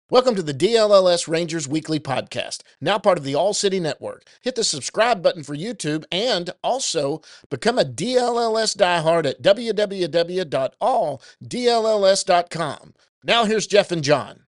Welcome to the DLLS Rangers Weekly Podcast, now part of the All City Network. Hit the subscribe button for YouTube and also become a DLLS diehard at www.alldlls.com. Now here's Jeff and John.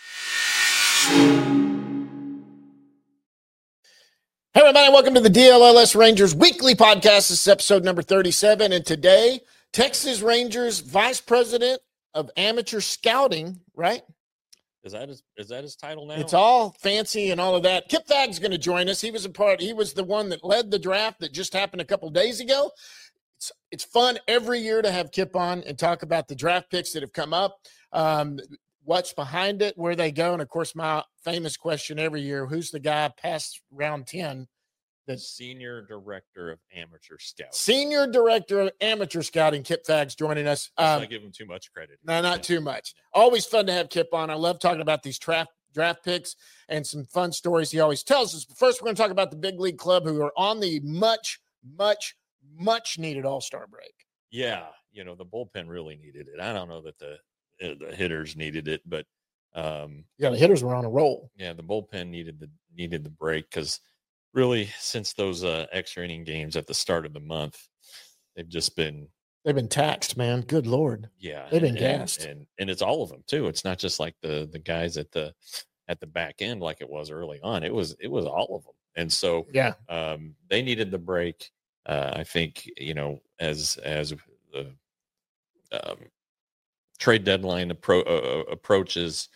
Hey everybody, welcome to the DLLS Rangers Weekly Podcast. This is episode number 37, and today, Texas Rangers Vice President of Amateur Scouting, right? Is that his title now? It's all fancy and all of that. Kip Fagg's going to join us. He was the one that led the draft that just happened a couple days ago. It's fun every year to have Kip on and talk about the draft picks that have come up, what's behind it, where they go, and of course my famous question every year: who's the guy past round 10? The Senior Director of Amateur Scouting. Senior Director of Amateur Scouting, Kip Fagg's joining us. Let's not give him too much credit. No, not too much. Always fun to have Kip on. I love talking about these draft picks and some fun stories he always tells us. But first, we're going to talk about the Big League Club, who are on the much needed All-Star break. Yeah, the bullpen really needed it. I don't know that the hitters needed it, but the hitters were on a roll. Yeah, the bullpen needed the break because really, since those extra inning games at the start of the month, they've been taxed, man. Good Lord. Yeah. They've been gassed. And it's all of them too. It's not just like the guys at the back end like it was early on. It was all of them. And so yeah, they needed the break. I think, as the trade deadline approaches,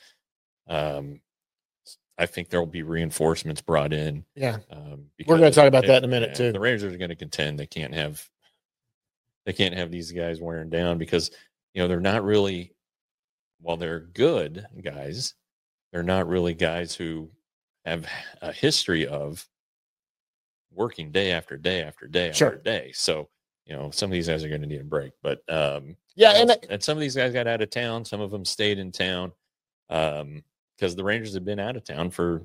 I think there will be reinforcements brought in. Yeah, we're going to talk about that in a minute too. The Rangers are going to contend. They can't have these guys wearing down because they're not really. While they're good guys, they're not really guys who have a history of working day after day after day after day. So some of these guys are going to need a break. But and some of these guys got out of town. Some of them stayed in town. Because the Rangers have been out of town for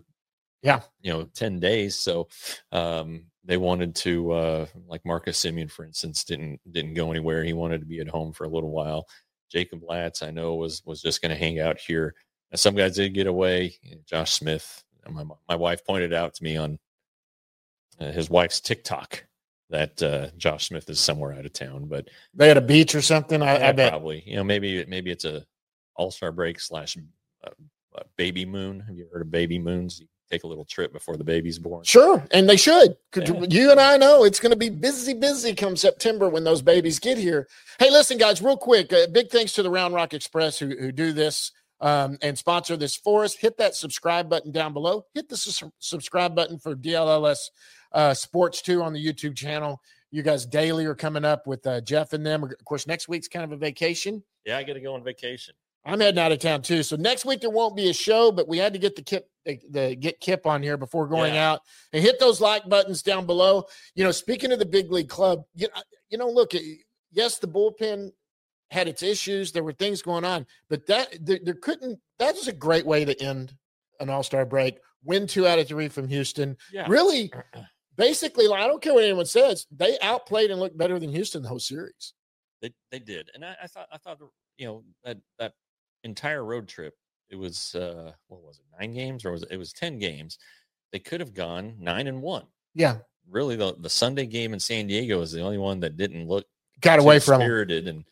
10 days. So they wanted to like Marcus Semien, for instance, didn't go anywhere. He wanted to be at home for a little while. Jacob Latz, I know, was just going to hang out here. Now, some guys did get away. Josh Smith, my wife pointed out to me on his wife's TikTok that Josh Smith is somewhere out of town, but they had a beach or something. I bet probably, maybe it's a all-star break / baby moon. Have you heard of baby moons? You take a little trip before the baby's born. Sure, and they should. You and I know it's going to be busy come September when those babies get here. Hey, listen, guys, real quick, big thanks to the Round Rock Express who do this and sponsor this for us. Hit that subscribe button down below. Hit the subscribe button for DLLS Sports 2 on the YouTube channel. You guys daily are coming up with Jeff and them. Of course, next week's kind of a vacation. Yeah, I got to go on vacation. I'm heading out of town too. So next week there won't be a show, but we had to get get Kip on here before going out, and hit those like buttons down below. Speaking of the Big League Club, look, yes, the bullpen had its issues. There were things going on, but that was a great way to end an All-Star break. Win 2 out of 3 from Houston. Yeah. Really, basically, I don't care what anyone says. They outplayed and looked better than Houston the whole series. They did. And I thought that entire road trip, it was 9 games, or it was 10 games. They could have gone 9-1. Yeah, really the Sunday game in San Diego is the only one that didn't look got away from spirited. And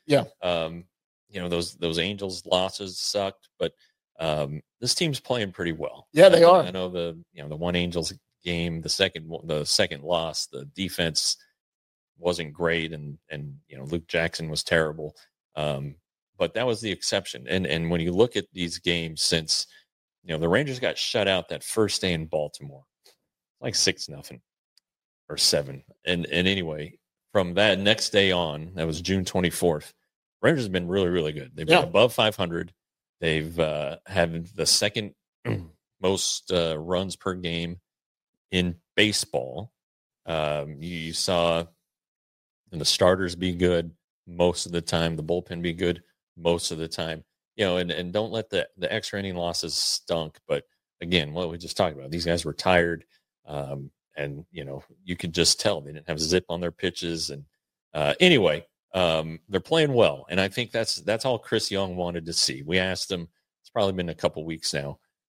those Angels losses sucked, but this team's playing pretty well. Yeah, they are. I know the one Angels game, the second loss, the defense wasn't great, and Luke Jackson was terrible. But that was the exception. And when you look at these games since, the Rangers got shut out that first day in Baltimore, like 6-0 or 7. And anyway, from that next day on, that was June 24th, Rangers have been really, really good. They've been above 500. They've had the second most runs per game in baseball. You saw the starters be good most of the time, the bullpen be good most of the time, and don't let the extra inning losses stunk. But again, what we just talked about, these guys were tired, and you could just tell they didn't have zip on their pitches. And anyway, they're playing well, and I think that's all Chris Young wanted to see. We asked him. It's probably been a couple weeks now.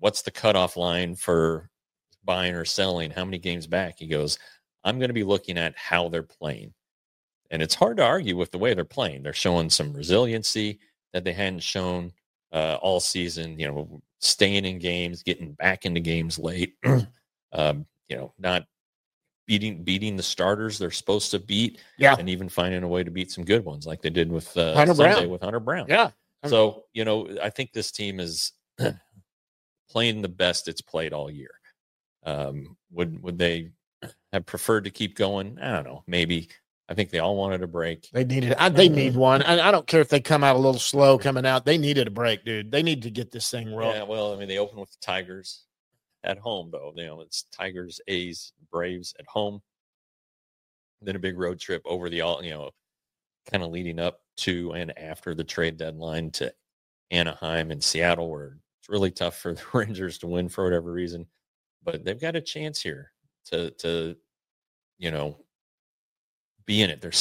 what's the cutoff line for buying or selling? How many games back? He goes, I'm going to be looking at how they're playing. And it's hard to argue with the way they're playing. They're showing some resiliency that they hadn't shown all season, staying in games, getting back into games late, not beating the starters they're supposed to beat, and even finding a way to beat some good ones like they did with Sunday with Hunter Brown. Yeah. So, I think this team is playing the best it's played all year. Would they have preferred to keep going? I don't know. Maybe. I think they all wanted a break. They needed. They need one. I don't care if they come out a little slow coming out. They needed a break, dude. They need to get this thing rolling. Yeah. Well, they opened with the Tigers at home, though. It's Tigers, A's, Braves at home. Then a big road trip over the kind of leading up to and after the trade deadline to Anaheim and Seattle, where it's really tough for the Rangers to win for whatever reason. But they've got a chance here to be in it. They're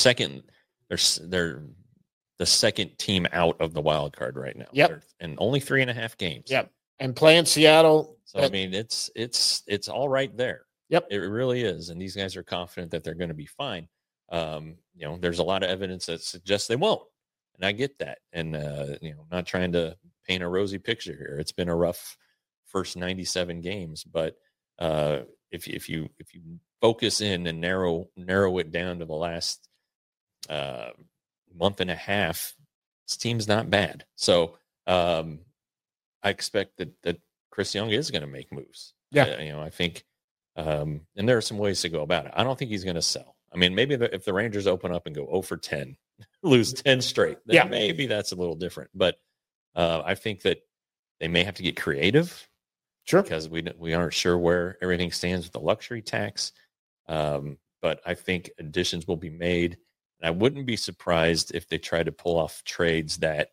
the second team out of the wild card right now. Yep. And only 3.5 games. Yep. And playing Seattle. So it's all right there. Yep. It really is. And these guys are confident that they're going to be fine. There's a lot of evidence that suggests they won't. And I get that. And I'm not trying to paint a rosy picture here. It's been a rough first 97 games, but if you focus in and narrow it down to the last month and a half, this team's not bad. So I expect that Chris Young is going to make moves. Yeah. I think, and there are some ways to go about it. I don't think he's going to sell. I mean, maybe if the Rangers open up and go 0 for 10, lose 10 straight, then maybe that's a little different. But I think that they may have to get creative. Sure. Because we aren't sure where everything stands with the luxury tax. But I think additions will be made. And I wouldn't be surprised if they try to pull off trades that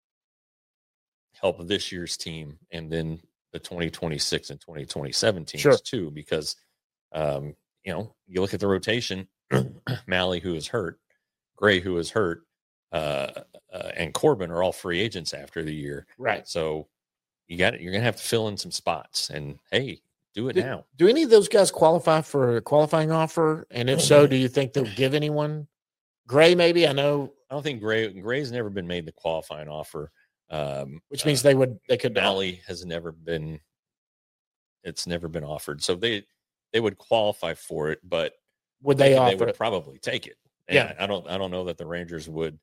help this year's team and then the 2026 and 2027 teams too. Because, you look at the rotation, Malley, who is hurt, Gray, who is hurt, and Corbin are all free agents after the year. Right. So, you're going to have to fill in some spots, and hey, do it now. Do any of those guys qualify for a qualifying offer? And if so, do you think they'll give anyone? Gray, maybe. I don't think Gray's never been made the qualifying offer. Which means they could. Malley has never been. It's never been offered, so they would qualify for it, but would they offer? They would probably take it. And I don't know that the Rangers would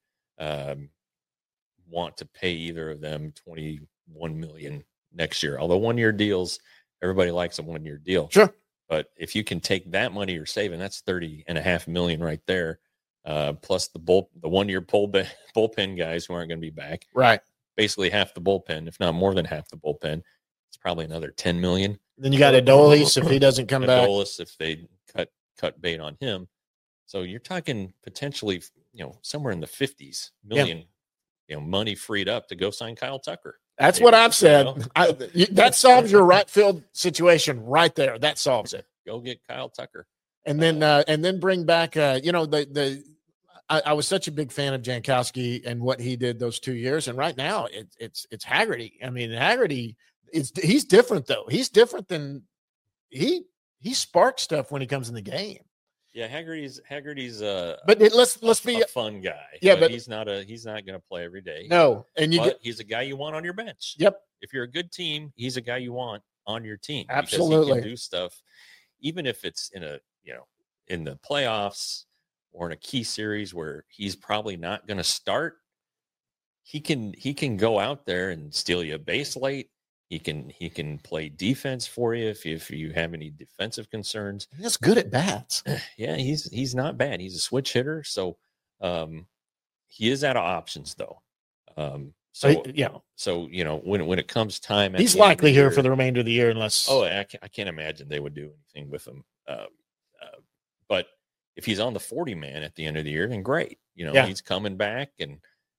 want to pay either of them $21 million next year. Although 1-year deals, everybody likes a 1-year deal. Sure. But if you can take that money you're saving, that's $30.5 million right there. Plus the 1-year bullpen guys who aren't going to be back. Right. Basically half the bullpen, if not more than half the bullpen. It's probably another $10 million. Then you got Adolis if he doesn't come back. Adolis if they cut bait on him. So you're talking potentially, somewhere in the 50s million, money freed up to go sign Kyle Tucker. That's what I've said. That solves your right field situation right there. That solves it. Go get Kyle Tucker. And then bring back, I was such a big fan of Jankowski and what he did those 2 years. And right now it's Haggerty. I mean, Haggerty he's different though. He's different than he sparks stuff when he comes in the game. Yeah, Haggerty's let's be a fun guy. Yeah, but he's not going to play every day. No, and he's a guy you want on your bench. Yep. If you're a good team, he's a guy you want on your team. Absolutely, because he can do stuff, even if it's in the playoffs or in a key series where he's probably not going to start. He can go out there and steal you a base late. He can play defense for you if you have any defensive concerns. He's good at bats. Yeah, he's not bad. He's a switch hitter, so he is out of options though. So when it comes time, he's likely here for the remainder of the year unless. Oh, I can't imagine they would do anything with him. But if he's on the 40 man at the end of the year, then great. He's coming back and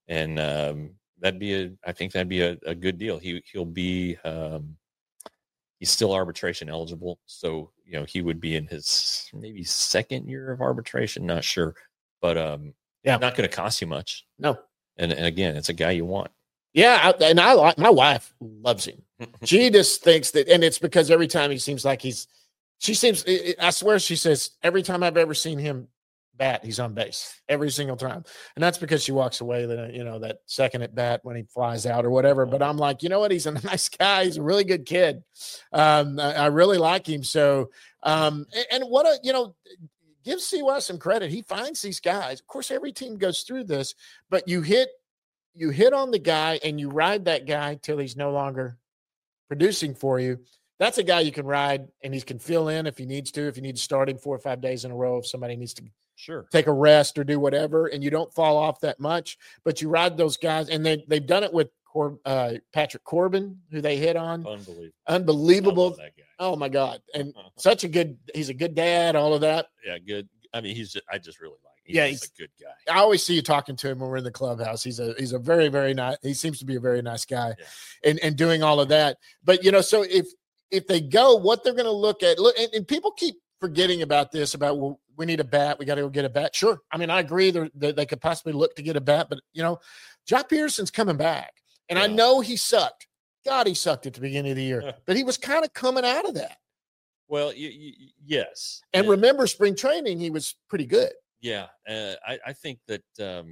I think that'd be a good deal. He'll be he's still arbitration eligible, so he would be in his maybe second year of arbitration. Not sure, but not going to cost you much. No, and again, it's a guy you want. Yeah, and I like my wife loves him. She just thinks that, and it's because every time he seems like I swear she says every time I've ever seen him bat, he's on base every single time. And that's because she walks away that second at bat when he flies out or whatever. But I'm like, you know what? He's a nice guy. He's a really good kid. I really like him. So, and give CY some credit. He finds these guys. Of course, every team goes through this, but you hit on the guy and you ride that guy till he's no longer producing for you. That's a guy you can ride and he can fill in if he needs to, if you need to start him 4 or 5 days in a row, if somebody needs to take a rest or do whatever, and you don't fall off that much, but you ride those guys. And they've done it with Patrick Corbin, who they hit on. Unbelievable. That guy. Oh my God. And he's a good dad, all of that. Yeah. Good. I mean, I just really like him. He's a good guy. I always see you talking to him when we're in the clubhouse. He's a very, very nice, he seems to be a very nice guy, and doing all of that. But, so if they go, what they're going to look at, and people keep forgetting about this, about, well, we need a bat. We got to go get a bat. Sure. I mean, I agree they could possibly look to get a bat, but, Joc Pederson's coming back. And I know he sucked. God, he sucked at the beginning of the year, but he was kind of coming out of that. Well, yes. And remember, spring training, he was pretty good. Yeah. I think that,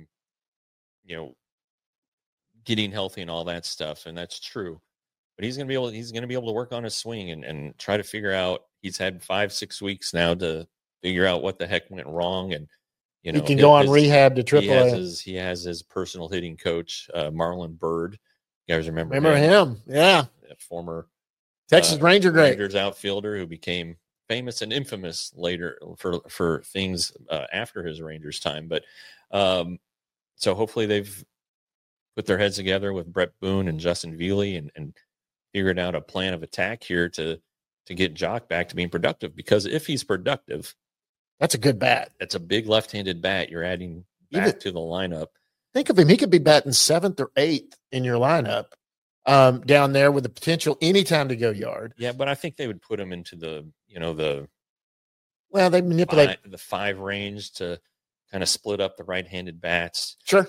getting healthy and all that stuff, and that's true. But he's going to be able to work on his swing and try to figure out. He's had 5-6 weeks now to figure out what the heck went wrong, and he can go on rehab to AAA. He has his personal hitting coach, Marlon Byrd. You guys remember him? Yeah, former Texas Rangers outfielder who became famous and infamous later for things after his Rangers time. But so hopefully they've put their heads together with Brett Boone and Justin Veely and figured out a plan of attack here to get Joc back to being productive. Because if he's productive, that's a good bat. That's a big left-handed bat you're adding back to the lineup. Think of him. He could be batting 7th or 8th in your lineup down there with the potential anytime to go yard. Yeah, but I think they would put him into they manipulate the 5 range to kind of split up the right-handed bats. Sure.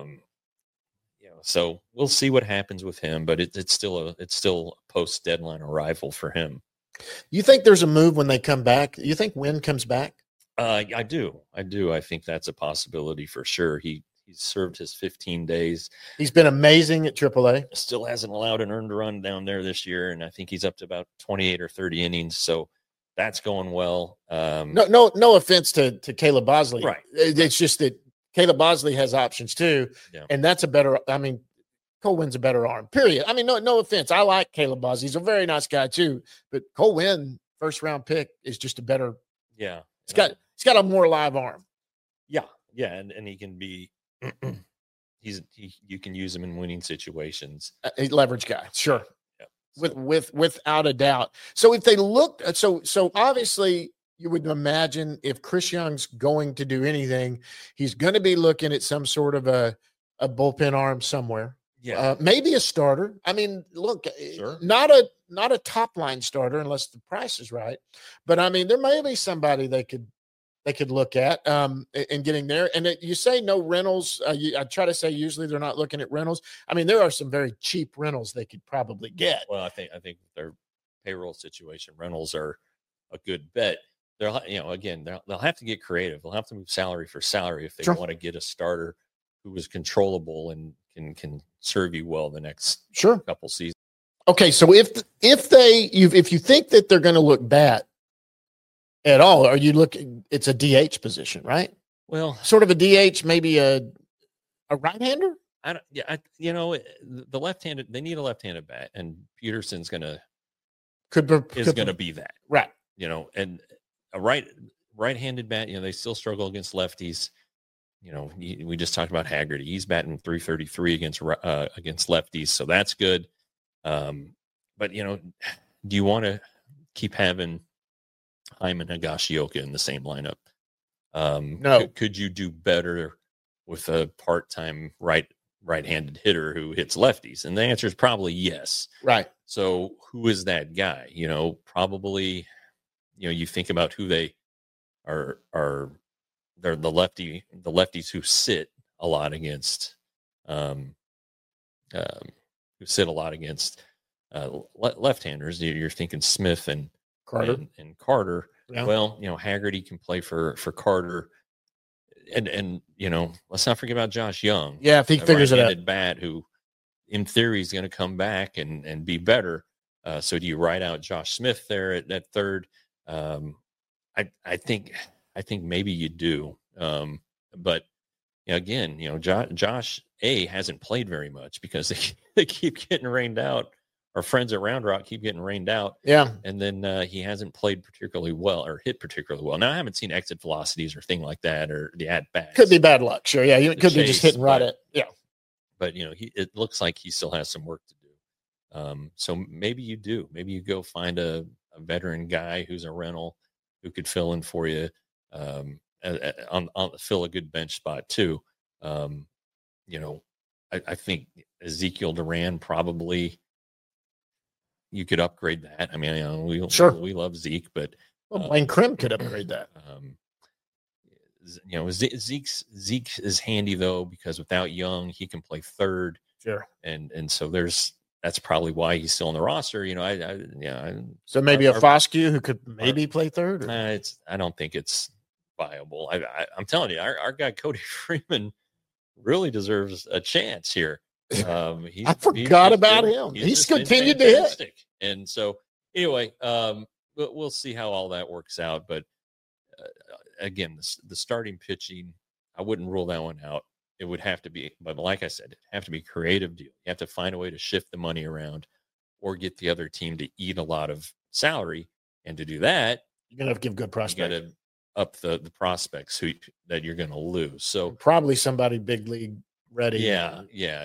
So we'll see what happens with him, but it's still a post-deadline arrival for him. You think there's a move when they come back? You think Wynn comes back? I do. I think that's a possibility for sure. He's served his 15 days. He's been amazing at AAA. Still hasn't allowed an earned run down there this year, and I think he's up to about 28 or 30 innings. So that's going well. No offense to Caleb Bosley. Right. It's just that Caleb Bosley has options too, and that's a better. I mean, Cole Wynn's a better arm. Period. I mean, no offense. I like Caleb Bosley. He's a very nice guy too, but Cole Wynn, first round pick, is just a better. Yeah. He's got a more live arm. Yeah, and he can be. You can use him in winning situations. A leverage guy, sure. Yeah. Without a doubt. So if they look, so obviously you would imagine if Chris Young's going to do anything, he's going to be looking at some sort of a bullpen arm somewhere. Yeah, maybe a starter. I mean, look, sure. not a top line starter unless the price is right. But I mean, there may be somebody they could look at in getting there. And you say no rentals. I try to say usually they're not looking at rentals. I mean, there are some very cheap rentals they could probably get. Well, I think their payroll situation, rentals are a good bet. They'll have to get creative. They'll have to move salary for salary if they want to get a starter who is controllable and can serve you well the next couple seasons. Okay, so if you think that they're going to look bat at all, are you looking? It's a DH position, right? Well, sort of a DH, maybe a right-hander. The left-handed. They need a left-handed bat, and Pederson's going to be that, right? And a right-handed bat. They still struggle against lefties. We just talked about Haggerty. He's batting .333 against lefties, so that's good. But do you want to keep having Hyman Higashioka in the same lineup? No. Could you do better with a part-time right-handed hitter who hits lefties? And the answer is probably yes. Right. So who is that guy? Probably. You think about who they are. They're the lefties who sit a lot against who sit a lot against left-handers. You're thinking Smith and Carter. and Carter. Yeah. Well, Haggerty can play for Carter, and let's not forget about Josh Young. Yeah, if he figures it out. Bat who, in theory, is going to come back and be better. So do you ride out Josh Smith there at third? I think maybe you do. But again, Josh hasn't played very much because they keep getting rained out. Our friends at Round Rock keep getting rained out. Yeah. And then he hasn't played particularly well or hit particularly well. Now, I haven't seen exit velocities or thing like that or the at-bats. Could be bad luck. Sure. Yeah. It could be just hitting right at. Yeah. But, it looks like he still has some work to do. So maybe you do. Maybe you go find a veteran guy who's a rental who could fill in for you, fill a good bench spot too. I think Ezekiel Duran probably you could upgrade that. I mean, we love Zeke, but Blaine Krim could upgrade that. Zeke is handy though because without Young, he can play third. Sure, and so that's probably why he's still on the roster. So maybe a Foscue who could maybe play third. I don't think it's viable. I'm telling you, our guy Cody Freeman really deserves a chance here. I forgot about him. He's continued to hit. And so anyway, we'll see how all that works out. But again, the starting pitching, I wouldn't rule that one out. It would have to be, but like I said, it'd have to be a creative deal. You have to find a way to shift the money around or get the other team to eat a lot of salary. And to do that, you're going to have to give good prospects. You got to up the prospects that you're going to lose. So probably somebody big league ready. Yeah.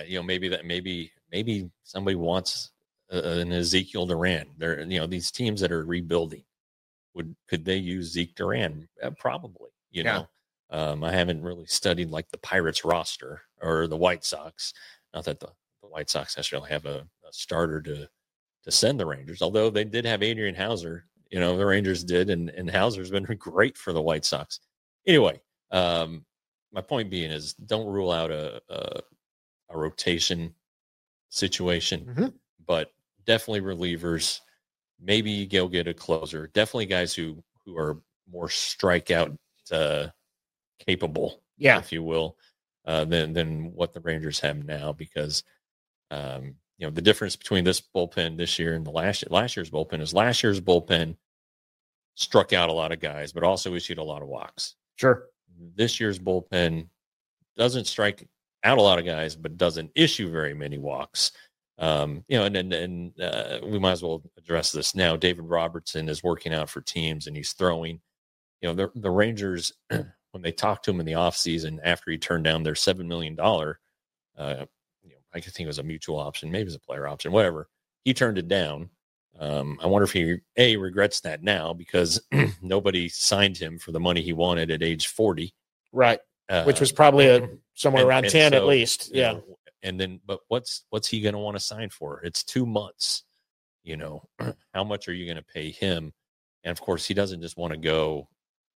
Maybe somebody wants an Ezekiel Duran. These teams that are rebuilding could they use Zeke Duran? Probably. I haven't really studied like the Pirates roster or the White Sox. Not that the White Sox necessarily have a starter to send the Rangers, although they did have Adrian Hauser. The Rangers did, and Hauser's been great for the White Sox. Anyway, my point being is don't rule out a rotation situation, but definitely relievers. Maybe you go get a closer. Definitely guys who are more strikeout capable, if you will, than what the Rangers have now. Because the difference between this bullpen this year and the last year's bullpen is last year's bullpen struck out a lot of guys, but also issued a lot of walks. Sure. This year's bullpen doesn't strike out a lot of guys, but doesn't issue very many walks. And we might as well address this now. David Robertson is working out for teams and he's throwing. The Rangers, when they talked to him in the offseason after he turned down their $7 million, I think it was a mutual option, maybe it was a player option, whatever. He turned it down. I wonder if he regrets that now because nobody signed him for the money he wanted at age 40. Right. Which was probably somewhere around 10 at least. Yeah. And then, but what's he going to want to sign for? It's 2 months. How much are you going to pay him? And of course, he doesn't just want to go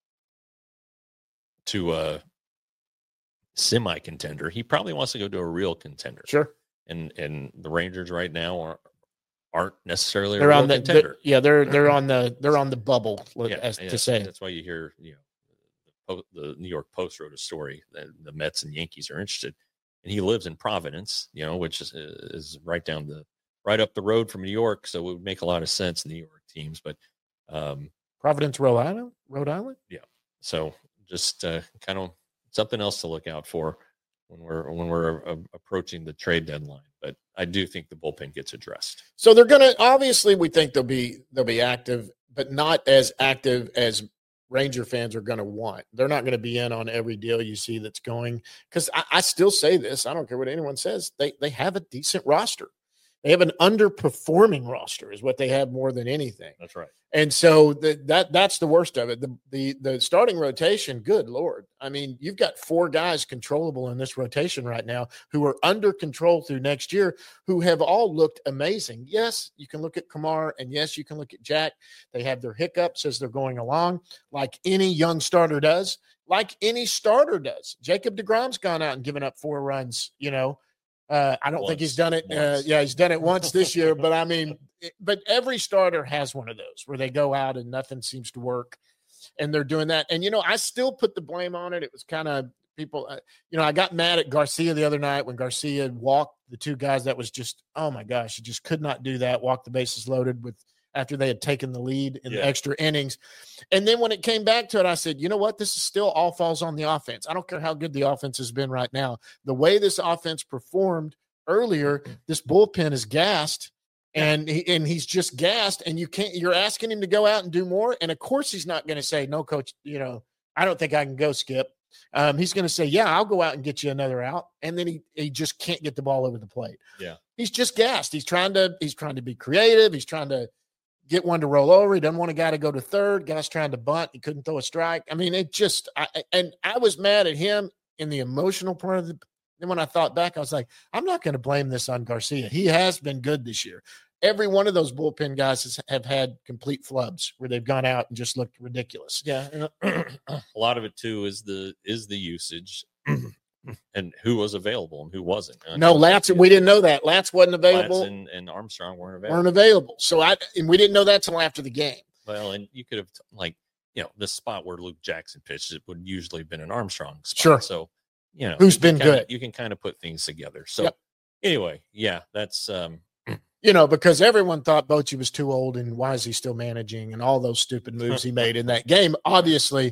to a semi contender. He probably wants to go to a real contender. Sure. And the Rangers right now aren't necessarily a real contender. They're on the bubble, to say. That's why you hear, the New York Post wrote a story that the Mets and Yankees are interested, and he lives in Providence, which is right up the road from New York, so it would make a lot of sense in the New York teams. But Providence, Rhode Island, yeah. So just kind of something else to look out for when we're approaching the trade deadline. But I do think the bullpen gets addressed. So they're going to obviously we think they'll be active, but not as active as Ranger fans are going to want. They're not going to be in on every deal you see that's going, because I still say this. I don't care what anyone says. They have a decent roster. They have an underperforming roster is what they have more than anything. That's right. And so that's the worst of it. The starting rotation, good Lord. I mean, you've got 4 guys controllable in this rotation right now who are under control through next year, who have all looked amazing. Yes, you can look at Kumar, and yes, you can look at Jack. They have their hiccups as they're going along, like any young starter does, like any starter does. Jacob deGrom's gone out and given up 4 runs, I don't think he's done it. He's done it once this year, but I mean, but every starter has one of those where they go out and nothing seems to work, and they're doing that. And, I still put the blame on it. It was kind of people, I got mad at Garcia the other night when Garcia walked the two guys. That was just, oh my gosh, he just could not do that. Walk the bases loaded after they had taken the lead in the extra innings. And then when it came back to it, I said, you know what? This is still all falls on the offense. I don't care how good the offense has been right now. The way this offense performed earlier, this bullpen is gassed, and he's just gassed, and you're asking him to go out and do more. And of course he's not going to say, no, coach, I don't think I can go, Skip. He's going to say, yeah, I'll go out and get you another out. And then he just can't get the ball over the plate. Yeah. He's just gassed. He's trying to be creative. He's trying to get one to roll over. He doesn't want a guy to go to third. Guy's trying to bunt. He couldn't throw a strike. I mean, I was mad at him in the emotional part of the. Then when I thought back, I was like, I'm not going to blame this on Garcia. He has been good this year. Every one of those bullpen guys have had complete flubs where they've gone out and just looked ridiculous. Yeah. A lot of it too is the usage and who was available and who wasn't. No, Latz, we didn't know that. Latz wasn't available. Latz and Armstrong weren't available. So we didn't know that till after the game. Well, and you could have the spot where Luke Jackson pitched, it would usually have been an Armstrong spot. Sure. So, who's been good. You can kind of put things together. So anyway, that's because everyone thought Bochy was too old and why is he still managing and all those stupid moves he made in that game. Obviously,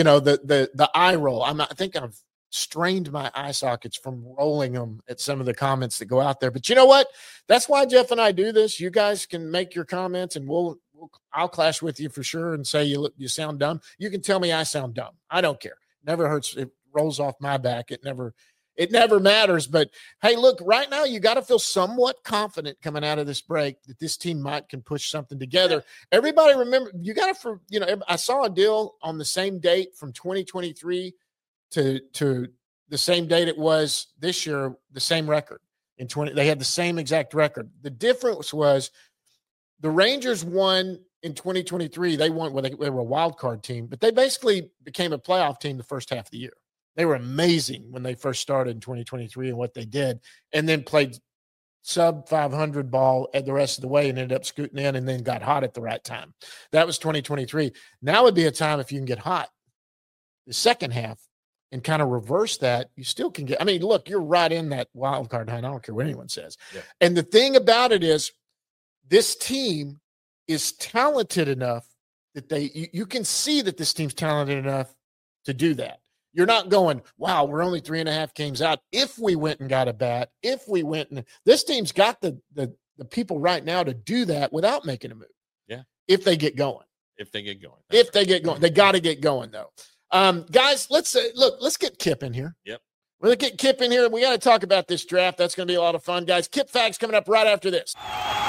the eye roll. I think I've strained my eye sockets from rolling them at some of the comments that go out there. But you know what? That's why Jeff and I do this. You guys can make your comments and I'll clash with you for sure and say you sound dumb. You can tell me I sound dumb. I don't care. Never hurts. It rolls off my back. It never matters. But hey, look, right now you got to feel somewhat confident coming out of this break that this team can push something together. Everybody remember, you got to, I saw a deal on the same date from 2023 to the same date it was this year, the same record they had the same exact record. The difference was the Rangers won in 2023. They won, they were a wild card team, but they basically became a playoff team the first half of the year. They were amazing when they first started in 2023 and what they did, and then played sub 500 ball at the rest of the way and ended up scooting in and then got hot at the right time. That was 2023. Now would be a time if you can get hot the second half and kind of reverse that, you still can get, look, you're right in that wild card hunt. I don't care what anyone says. Yeah. And the thing about it is this team is talented enough that you can see that this team's talented enough to do that. You're not going, wow, we're only 3.5 games out. If we went and got a bat, this team's got the people right now to do that without making a move. Yeah. If they get going. They get going. They got to get going though. Guys, let's get Kip in here. Yep. We're going to get Kip in here. We got to talk about this draft. That's going to be a lot of fun, guys. Kip Facts coming up right after this.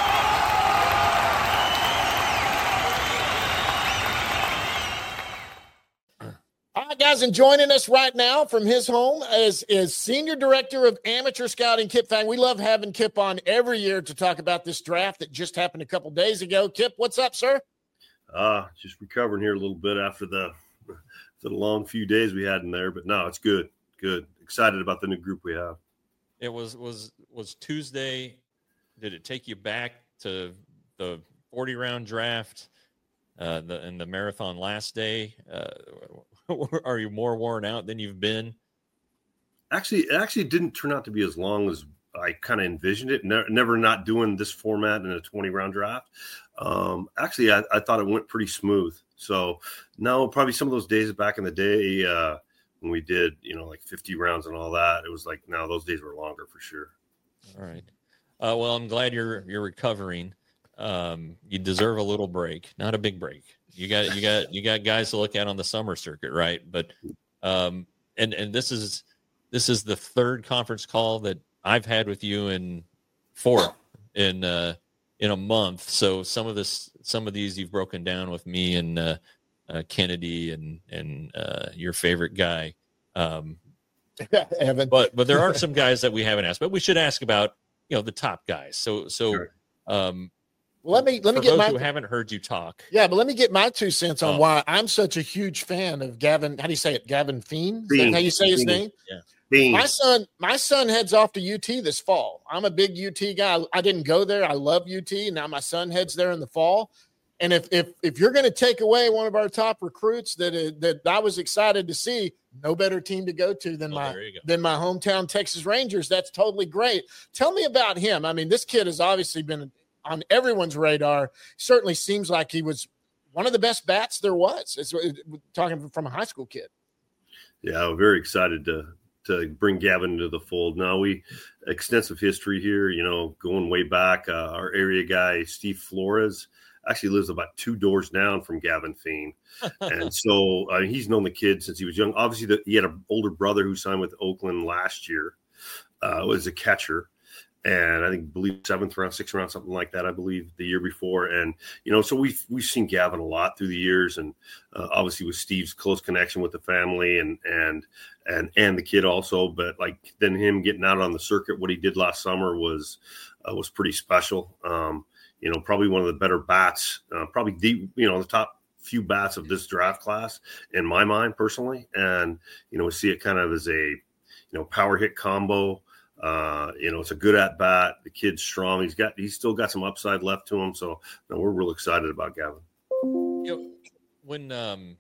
All right, guys, and joining us right now from his home is Senior Director of Amateur Scouting, Kip Fang. We love having Kip on every year to talk about this draft that just happened a couple days ago. Kip, what's up, sir? Just recovering here a little bit after the long few days we had in there, but no, it's good. Good. Excited about the new group we have. It was Tuesday. Did it take you back to the 40-round draft and the marathon last day? Are you more worn out than you've been? Actually, it actually didn't turn out to be as long as I kind of envisioned it. Never not doing this format in a 20-round draft. Actually, I thought it went pretty smooth. So no, probably some of those days back in the day when we did, like 50 rounds and all that, it was like, no, those days were longer for sure. All right. Well, I'm glad you're recovering. You deserve a little break, not a big break. You got guys to look at on the summer circuit, right? But and this is the third conference call that I've had with you in a month. So some of these you've broken down with me and Kennedy and your favorite guy, Evan. But there are some guys that we haven't asked, but we should ask about the top guys. So sure. Let me For get those my who haven't heard you talk. yeah, but let me get my 2 cents on why I'm such a huge fan of Gavin. How do you say it? Gavin Feen? Is that how you say his name? Yeah. Bean. My son heads off to UT this fall. I'm a big UT guy. I didn't go there. I love UT. Now my son heads there in the fall. And if you're going to take away one of our top recruits that I was excited to see, no better team to go to than my hometown Texas Rangers. That's totally great. Tell me about him. I mean, this kid has obviously been on everyone's radar. Certainly seems like he was one of the best bats there was. It's talking from a high school kid. Yeah, I'm very excited to bring Gavin into the fold. Now we extensive history here, going way back. Our area guy, Steve Flores, actually lives about 2 doors down from Gavin Feen. And so he's known the kid since he was young. Obviously, he had an older brother who signed with Oakland last year, was a catcher. And I believe 7th round, 6th round, something like that, I believe, the year before. And, so we've seen Gavin a lot through the years. And obviously with Steve's close connection with the family and the kid also. But then him getting out on the circuit, what he did last summer was pretty special. Probably one of the better bats, probably the top few bats of this draft class in my mind personally. And, we see it kind of as a, power hit combo. It's a good at bat. The kid's strong. He's still got some upside left to him. So we're real excited about Gavin. When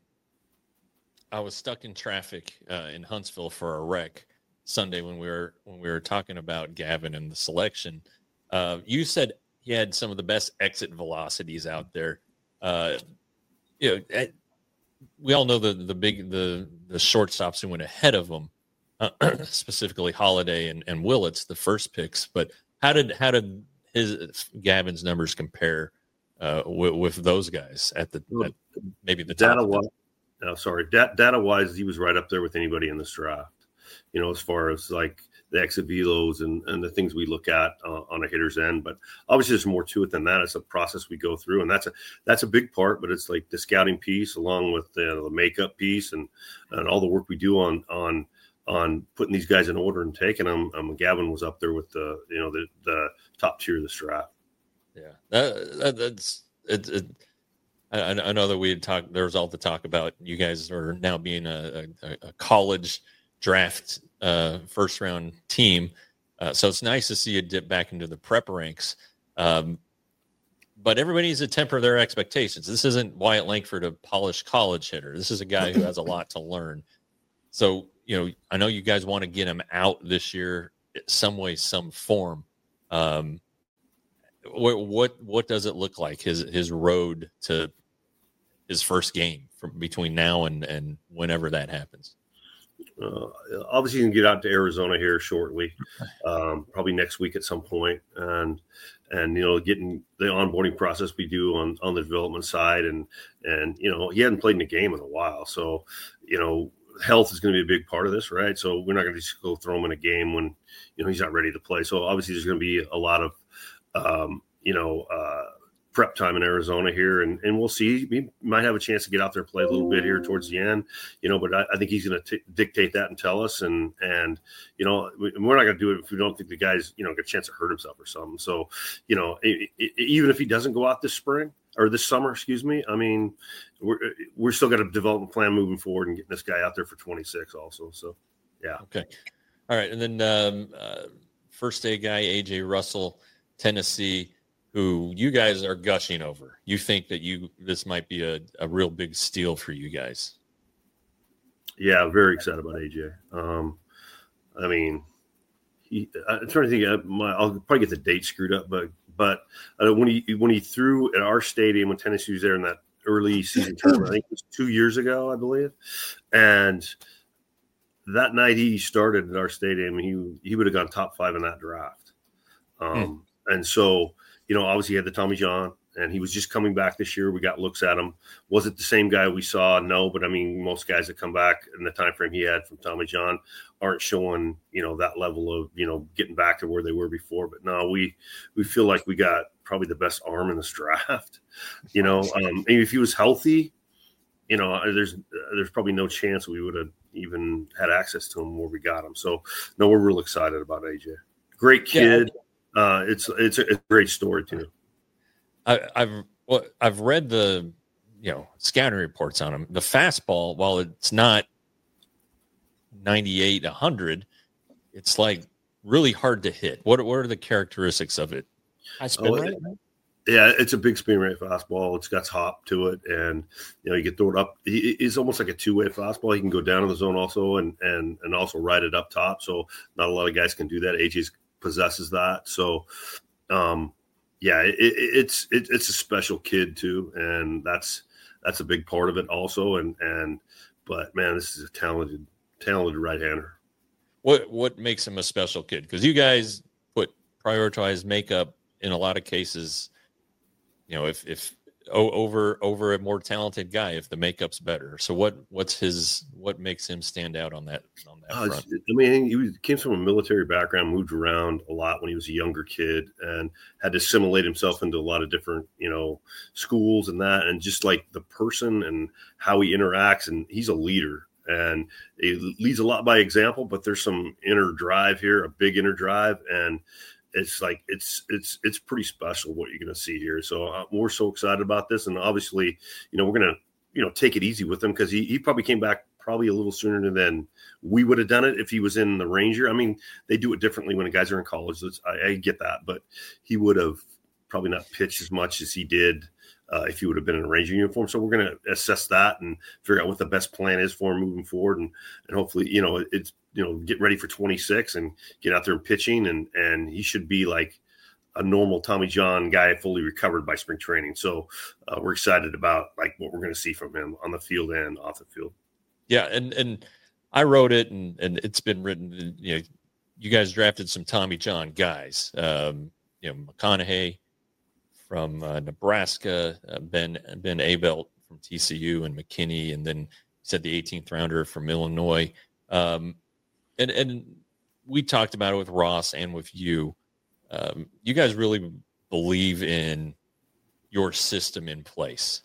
I was stuck in traffic in Huntsville for a wreck Sunday when we were talking about Gavin and the selection, you said he had some of the best exit velocities out there. We all know the shortstops who went ahead of him. Specifically Holiday and Willits, the first picks, but how did Gavin's numbers compare with those guys at maybe the data top? Data wise, he was right up there with anybody in this draft. As far as the exit velos and the things we look at on a hitter's end, but obviously there's more to it than that. It's a process we go through, and that's a big part. But it's like the scouting piece, along with the makeup piece, and all the work we do on putting these guys in order and taking them. Gavin was up there with the top tier of this draft. Yeah, that's it. I know that we had talked. There was all the talk about you guys are now being a college draft first round team. So it's nice to see you dip back into the prep ranks. But everybody needs to temper their expectations. This isn't Wyatt Langford, a polished college hitter. This is a guy who has a lot to learn. So, I know you guys want to get him out this year some way, some form. What does it look like, his road to his first game from between now and whenever that happens? Obviously, you can get out to Arizona here shortly, probably next week at some point, and getting the onboarding process we do on the development side, and he hadn't played in a game in a while, so health is going to be a big part of this, right? So we're not going to just go throw him in a game when he's not ready to play. So obviously there's going to be a lot of prep time in Arizona here, and we'll see. He might have a chance to get out there and play a little bit here towards the end, but I think he's going to dictate that and tell us, and we're not going to do it if we don't think the guy's get a chance to hurt himself or something. So even if he doesn't go out this spring or this summer, excuse me, I mean, we're still got a development plan moving forward and getting this guy out there for 26 also. So, yeah. Okay. All right. And then first day guy, AJ Russell, Tennessee, who you guys are gushing over. You think that this might be a real big steal for you guys. Yeah, I'm very excited about AJ. I mean, I'm trying to think. I'll probably get the date screwed up, but when he threw at our stadium when Tennessee was there in that early season tournament, I think it was 2 years ago, I believe, and that night he started at our stadium, he would have gone top 5 in that draft. And so, obviously he had the Tommy John, and he was just coming back this year. We got looks at him. Was it the same guy we saw? No, but I mean, most guys that come back in the time frame he had from Tommy John aren't showing, that level of, getting back to where they were before. But no, we feel like we got probably the best arm in this draft. If he was healthy, there's probably no chance we would have even had access to him where we got him. So no, we're real excited about AJ. Great kid. Yeah. It's a great story too. I've read the scouting reports on him. The fastball, while it's not 98, 100, it's like really hard to hit. What are the characteristics of it? High spin rate. Yeah, it's a big spin rate fastball. It's got hop to it, and you can throw it up. He's almost like a two-way fastball. He can go down in the zone also, and also ride it up top. So not a lot of guys can do that. AJ possesses that. So, it's a special kid too, and that's a big part of it also. But man, this is a talented right-hander. What makes him a special kid? Because you guys prioritize makeup in a lot of cases. If over a more talented guy, if the makeup's better. So what makes him stand out on that front? I mean, he came from a military background, moved around a lot when he was a younger kid, and had to assimilate himself into a lot of different, schools and that, and just like the person and how he interacts, and he's a leader. And he leads a lot by example, but there's some inner drive here, a big inner drive, and it's like it's pretty special what you're going to see here. So we're so excited about this, and obviously, we're going to take it easy with him because he probably came back a little sooner than we would have done it if he was in the Ranger. I mean, they do it differently when the guys are in college. I get that, but he would have probably not pitched as much as he did if he would have been in a Ranger uniform. So we're going to assess that and figure out what the best plan is for him moving forward, and hopefully, it's get ready for 26 and get out there and pitching, and he should be like a normal Tommy John guy, fully recovered by spring training. So we're excited about like what we're going to see from him on the field and off the field. Yeah, and I wrote it, and it's been written. You guys drafted some Tommy John guys. McConaughey from Nebraska, Ben Abelt from TCU, and McKinney, and then you said the 18th rounder from Illinois. And we talked about it with Ross and with you. You guys really believe in your system in place.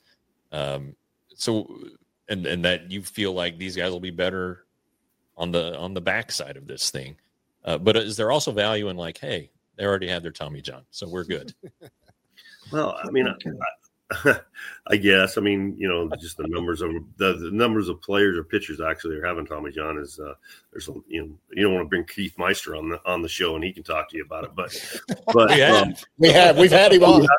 So that you feel like these guys will be better on the backside of this thing. But is there also value in like, hey, they already had their Tommy John, so we're good? Well, I mean, I guess. I mean, just the numbers of players or pitchers actually are having Tommy John is there's you don't want to bring Keith Meister on the show and he can talk to you about it, but we've had him on.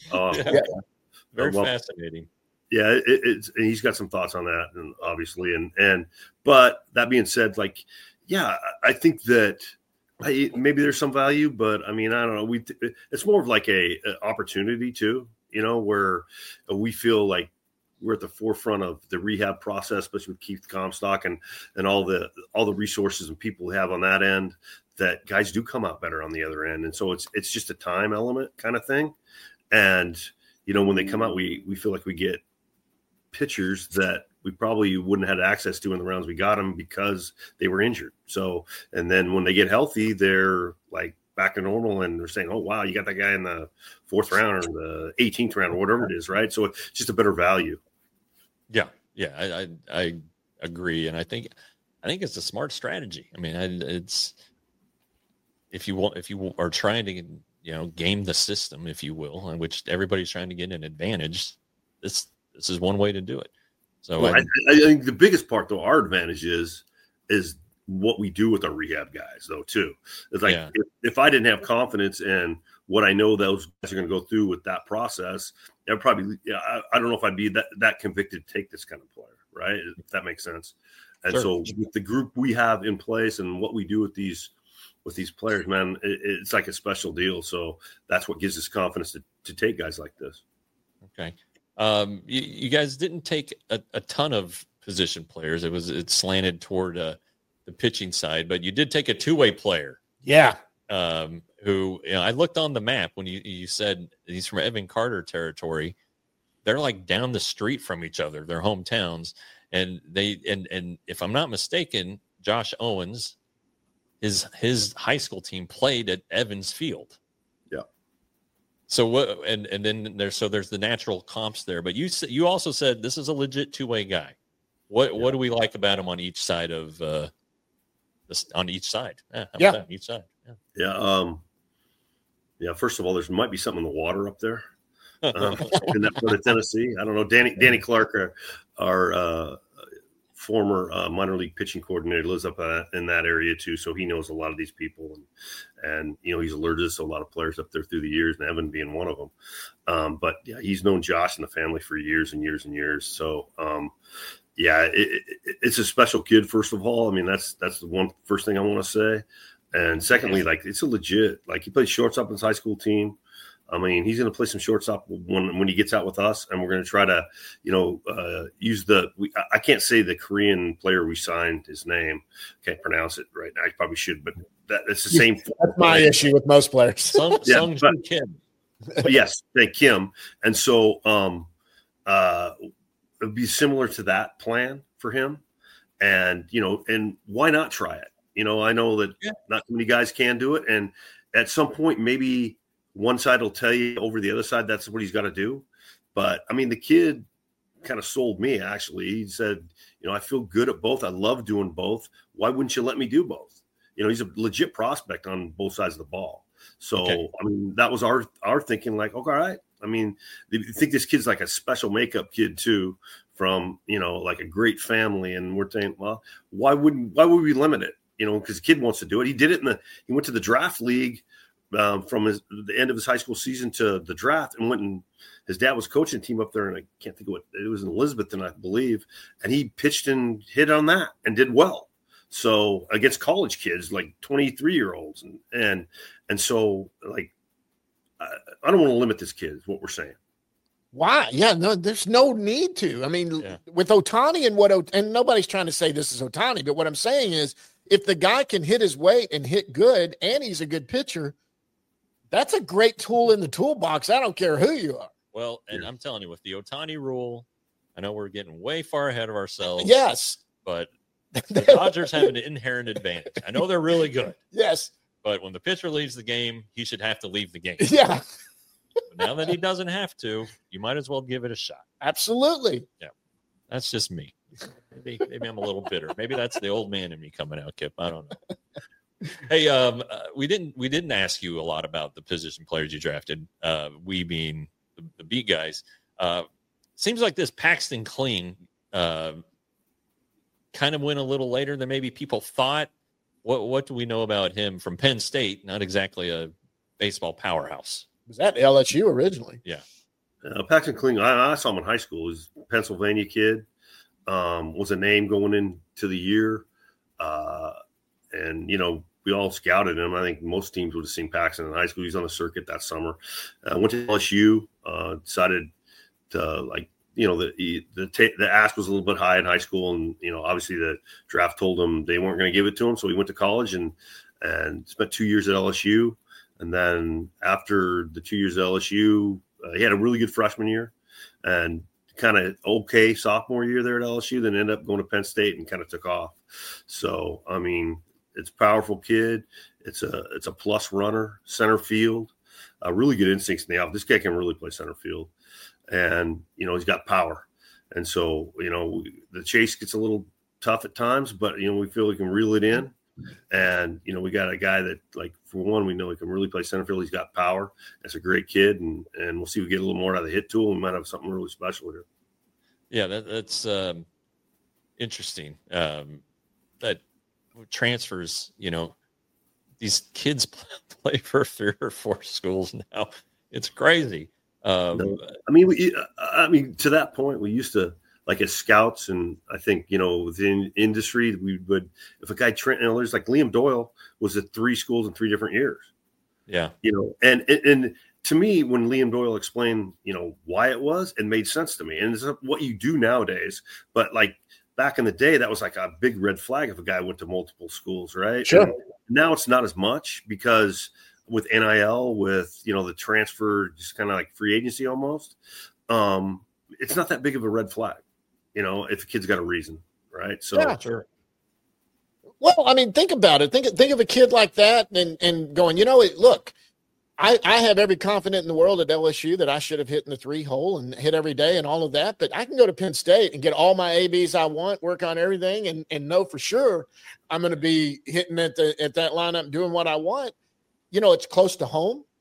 Very fascinating. Yeah, it's and he's got some thoughts on that, and obviously, but that being said, like, yeah, I think that. Maybe there's some value, but I mean, I don't know. It's more of like a opportunity too, where we feel like we're at the forefront of the rehab process, especially with Keith Comstock and all the resources and people we have on that end, that guys do come out better on the other end. And so it's just a time element kind of thing. And, when they come out, we feel like we get pitchers that we probably wouldn't have had access to in the rounds we got them because they were injured. So, and then when they get healthy, they're like back to normal and they're saying, oh, wow, you got that guy in the 4th round or the 18th round or whatever it is. Right. So it's just a better value. Yeah. Yeah. I agree. And I think it's a smart strategy. I mean, it's, if you are trying to, game the system, if you will, in which everybody's trying to get an advantage, this is one way to do it. So I think the biggest part, though, our advantage is what we do with our rehab guys, though, too. It's like if I didn't have confidence in what I know those guys are going to go through with that process, I'd probably I don't know if I'd be that convicted to take this kind of player, right? If that makes sense. And sure. So with the group we have in place and what we do with these players, man, it's like a special deal. So that's what gives us confidence to take guys like this. Okay. You guys didn't take a ton of position players. It slanted toward the pitching side, but you did take a two-way player. Yeah. Who I looked on the map when you said he's from Evan Carter territory. They're like down the street from each other, their hometowns, and and if I'm not mistaken, Josh Owens, his high school team played at Evans Field. So what? And then there's the natural comps there. But you also said this is a legit two-way guy. What do we like about him on each side of this? On each side, each side. Yeah. First of all, there might be something in the water up there. in that part of Tennessee. I don't know. Danny Clark, our former minor league pitching coordinator, lives up in that area too, so he knows a lot of these people, and he's alerted to a lot of players up there through the years, and Evan being one of them. But yeah, he's known Josh and the family for years and years and years. So yeah, it's a special kid. First of all, I mean that's the first thing I want to say, and secondly, like it's a legit, like he plays shortstop in his high school team. I mean, he's going to play some shortstop when he gets out with us, and we're going to try to, use I can't say the Korean player we signed his name. Can't pronounce it right now. I probably should, but it's the same. That's my issue with most players. Sung Kim. Yes, Kim. And so it would be similar to that plan for him. And, and why not try it? I know that not too many guys can do it. And at some point, maybe – one side will tell you over the other side that's what he's got to do. But, I mean, the kid kind of sold me, actually. He said, I feel good at both. I love doing both. Why wouldn't you let me do both? He's a legit prospect on both sides of the ball. So, okay. I mean, that was our thinking, like, okay, all right. I mean, you think this kid's like a special makeup kid, too, from, like a great family. And we're saying, well, why would we limit it? Because the kid wants to do it. He did it he went to the draft league from the end of his high school season to the draft, and his dad was coaching a team up there, and I can't think of what it was, in Elizabethton, I believe, and he pitched and hit on that and did well. So against college kids, like 23-year-olds, and so like I don't want to limit this kid, is what we're saying. Why? Yeah, no, there's no need to. I mean, with Ohtani and nobody's trying to say this is Ohtani, but what I'm saying is, if the guy can hit his weight and hit good, and he's a good pitcher, that's a great tool in the toolbox. I don't care who you are. Well, and I'm telling you, with the Ohtani rule, I know we're getting way far ahead of ourselves. Yes. But the Dodgers have an inherent advantage. I know they're really good. Yes. But when the pitcher leaves the game, he should have to leave the game. Yeah. But now that he doesn't have to, you might as well give it a shot. Absolutely. Yeah. That's just me. Maybe I'm a little bitter. Maybe that's the old man in me coming out, Kip. I don't know. Hey, we didn't ask you a lot about the position players you drafted. We being the beat guys. Seems like this Paxton Kling kind of went a little later than maybe people thought. What do we know about him from Penn State? Not exactly a baseball powerhouse. Was that LSU originally? Yeah. Paxton Kling, I saw him in high school. He's a Pennsylvania kid. Was a name going into the year. And, we all scouted him. I think most teams would have seen Paxton in high school. He's on the circuit that summer. Went to LSU, decided to, the ask was a little bit high in high school. And, obviously the draft told him they weren't going to give it to him. So he went to college and spent 2 years at LSU. And then after the 2 years at LSU, he had a really good freshman year and kind of okay sophomore year there at LSU, then ended up going to Penn State and kind of took off. So, I mean, it's a powerful kid. It's a plus runner, center field, really good instincts in the outfield. This guy can really play center field, and he's got power. And so the chase gets a little tough at times, but we feel we can reel it in. And we got a guy that, like, for one, we know he can really play center field. He's got power. That's a great kid, and we'll see if we get a little more out of the hit tool. We might have something really special here. Yeah, that's interesting. That transfers, these kids play for 3 or 4 schools now. It's crazy. I mean, to that point, we used to, like, as scouts, and I think, within industry, we would, if a guy, there's like Liam Doyle was at 3 schools in 3 different years. Yeah. And to me, when Liam Doyle explained, why it was, it made sense to me. And it's what you do nowadays. But, like, back in the day, that was like a big red flag if a guy went to multiple schools, right? Sure. And now it's not as much because with NIL, with, the transfer, just kind of like free agency almost, it's not that big of a red flag, if the kid's got a reason, right? So, yeah, sure. Well, I mean, think about it. Think of a kid like that and going, look, I have every confidence in the world at LSU that I should have hit in the 3 hole and hit every day and all of that. But I can go to Penn State and get all my ABs I want, work on everything, and know for sure I'm going to be hitting at that lineup, doing what I want. It's close to home.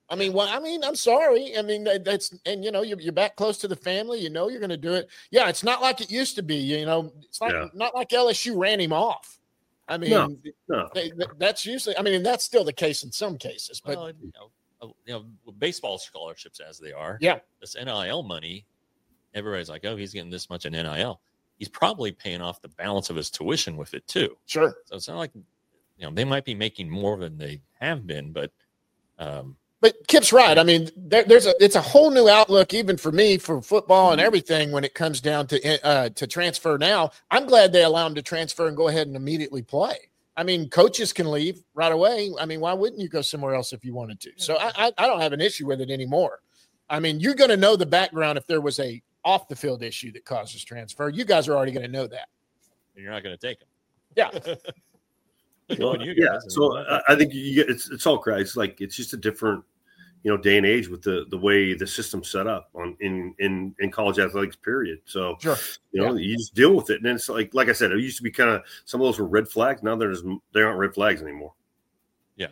I mean, I'm sorry. I mean, that's, and you're back close to the family. You're going to do it. Yeah, it's not like it used to be. It's not like LSU ran him off. I mean, no. That's usually. I mean, and that's still the case in some cases. But baseball scholarships as they are. Yeah, this NIL money, everybody's like, oh, he's getting this much in NIL. He's probably paying off the balance of his tuition with it too. Sure. So it's not like they might be making more than they have been, but. But Kip's right. I mean, it's a whole new outlook, even for me, for football and everything when it comes down to transfer. Now, I'm glad they allow him to transfer and go ahead and immediately play. I mean, coaches can leave right away. I mean, why wouldn't you go somewhere else if you wanted to? So I don't have an issue with it anymore. I mean, you're going to know the background if there was a off the field issue that causes transfer. You guys are already going to know that. And you're not going to take them. Yeah. Well, yeah. So I think it's all correct. It's like it's just a different, day and age with the way the system's set up in college athletics. Period. So sure. You just deal with it, and it's like I said, it used to be kind of some of those were red flags. Now they aren't red flags anymore. Yeah.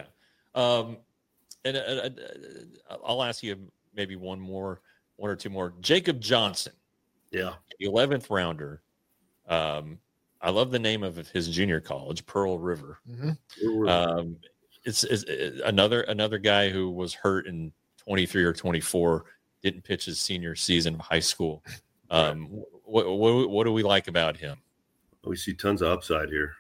And I'll ask you maybe one or two more. Jacob Johnson. Yeah. 11th rounder. I love the name of his junior college, Pearl River. Mm-hmm. It's another guy who was hurt in 23 or 24, didn't pitch his senior season of high school. What do we like about him? We see tons of upside here.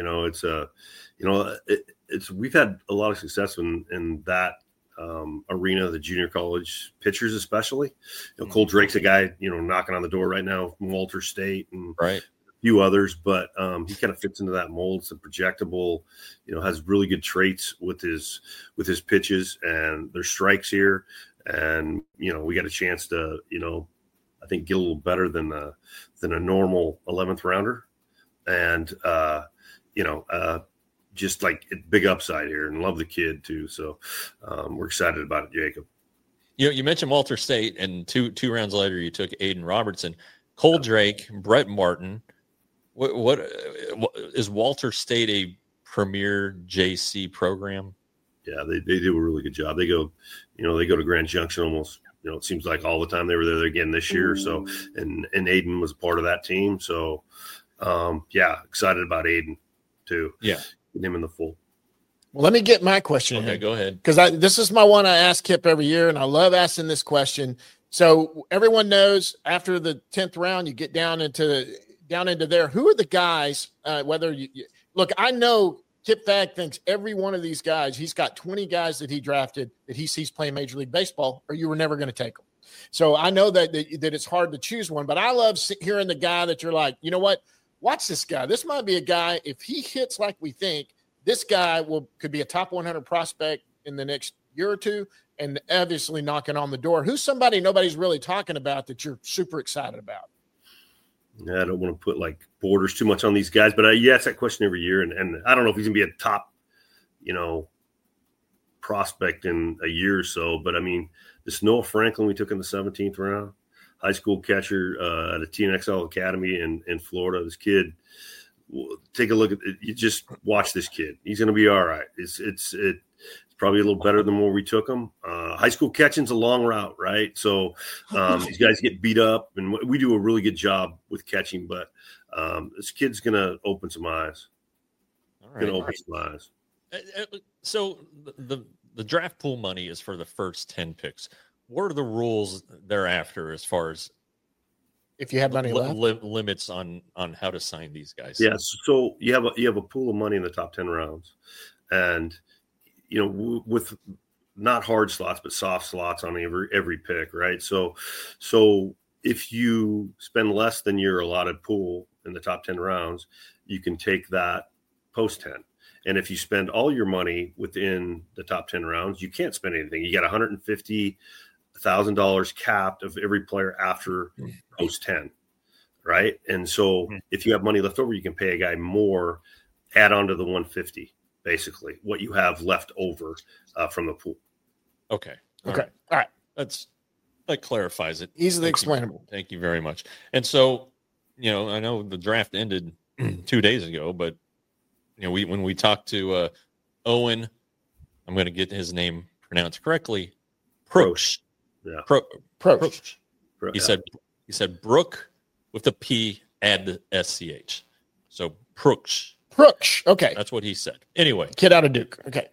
We've had a lot of success in that arena, the junior college pitchers, especially. Cole Drake's a guy, knocking on the door right now from Walter State and right. few others, but he kind of fits into that mold. It's a projectable, has really good traits with his pitches, and there's strikes here. And, we got a chance to, I think get a little better than a normal 11th rounder. And, just like big upside here, and love the kid too. So we're excited about it, Jacob. You mentioned Walter State, and two rounds later, you took Aiden Robertson, Cole Drake, Brett Martin. What is Walter State a premier JC program? Yeah, they do a really good job. They go, they go to Grand Junction almost. It seems like all the time. They were there again this year. So, and Aiden was a part of that team. So, excited about Aiden too. Yeah, get him in the full. Well, let me get my question. Okay, go ahead. Because this is my one I ask Kip every year, and I love asking this question. So everyone knows after the 10th round, you get down into there. Who are the guys? Whether you look, I know Kip Fagg thinks every one of these guys. He's got 20 guys that he drafted that he sees playing Major League Baseball, or you were never going to take them. So I know that it's hard to choose one, but I love hearing the guy that you're like, you know what? Watch this guy. This might be a guy. If he hits like we think, this guy could be a top 100 prospect in the next year or two, and obviously knocking on the door. Who's somebody nobody's really talking about that you're super excited about? Yeah, I don't want to put like borders too much on these guys, but you ask that question every year, and I don't know if he's gonna be a top, prospect in a year or so. But I mean, this Noah Franklin we took in the 17th round, high school catcher at a TNXL Academy in Florida. This kid, take a look at it. You just watch this kid. He's gonna be all right. It's probably a little better than where we took him. High school catching's a long route, right? So these guys get beat up, and we do a really good job with catching. But this kid's gonna open some eyes. All right. Gonna open some eyes. So the draft pool money is for the first 10 picks. What are the rules thereafter as far as if you have money left? Limits on how to sign these guys? Yeah. So you have a pool of money in the top 10 rounds, and with not hard slots, but soft slots on every pick, right? So if you spend less than your allotted pool in the top 10 rounds, you can take that post 10. And if you spend all your money within the top 10 rounds, you can't spend anything. You got $150,000 capped of every player after post 10, right? And so if you have money left over, you can pay a guy more, add on to the 150. Basically, what you have left over from the pool. Okay. All right. That clarifies it. Easily explainable. Thank you very much. And so, I know the draft ended 2 days ago, but when we talked to Owen, I'm going to get his name pronounce correctly, Proksch. Yeah. Proksch. He said Brook with the P, add the SCH. So Proksch. Proksch. Okay. That's what he said. Anyway. Kid out of Duke. Okay.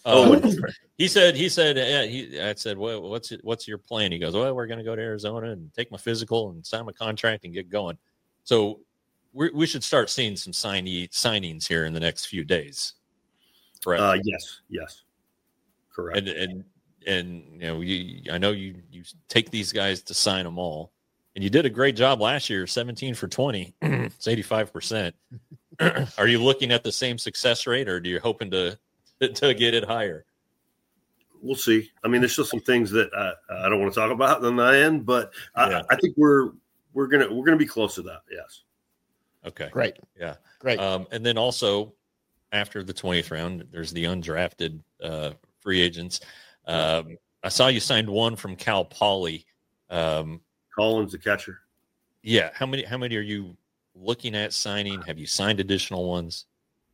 He said, I said, well, what's your plan? He goes, well, we're going to go to Arizona and take my physical and sign my contract and get going. So we should start seeing some signings here in the next few days. Correct? Yes. Correct. And I know you take these guys to sign them all, and you did a great job last year, 17 for 20. It's 85%. Are you looking at the same success rate, or do you hoping to get it higher? We'll see. I mean, there's still some things that I don't want to talk about on my end, but I think we're gonna be close to that. Yes. Okay. Great. Yeah. Great. And then also after the 20th round, there's the undrafted free agents. I saw you signed one from Cal Poly. Collins, the catcher. Yeah. How many are you looking at signing? Have you signed additional ones?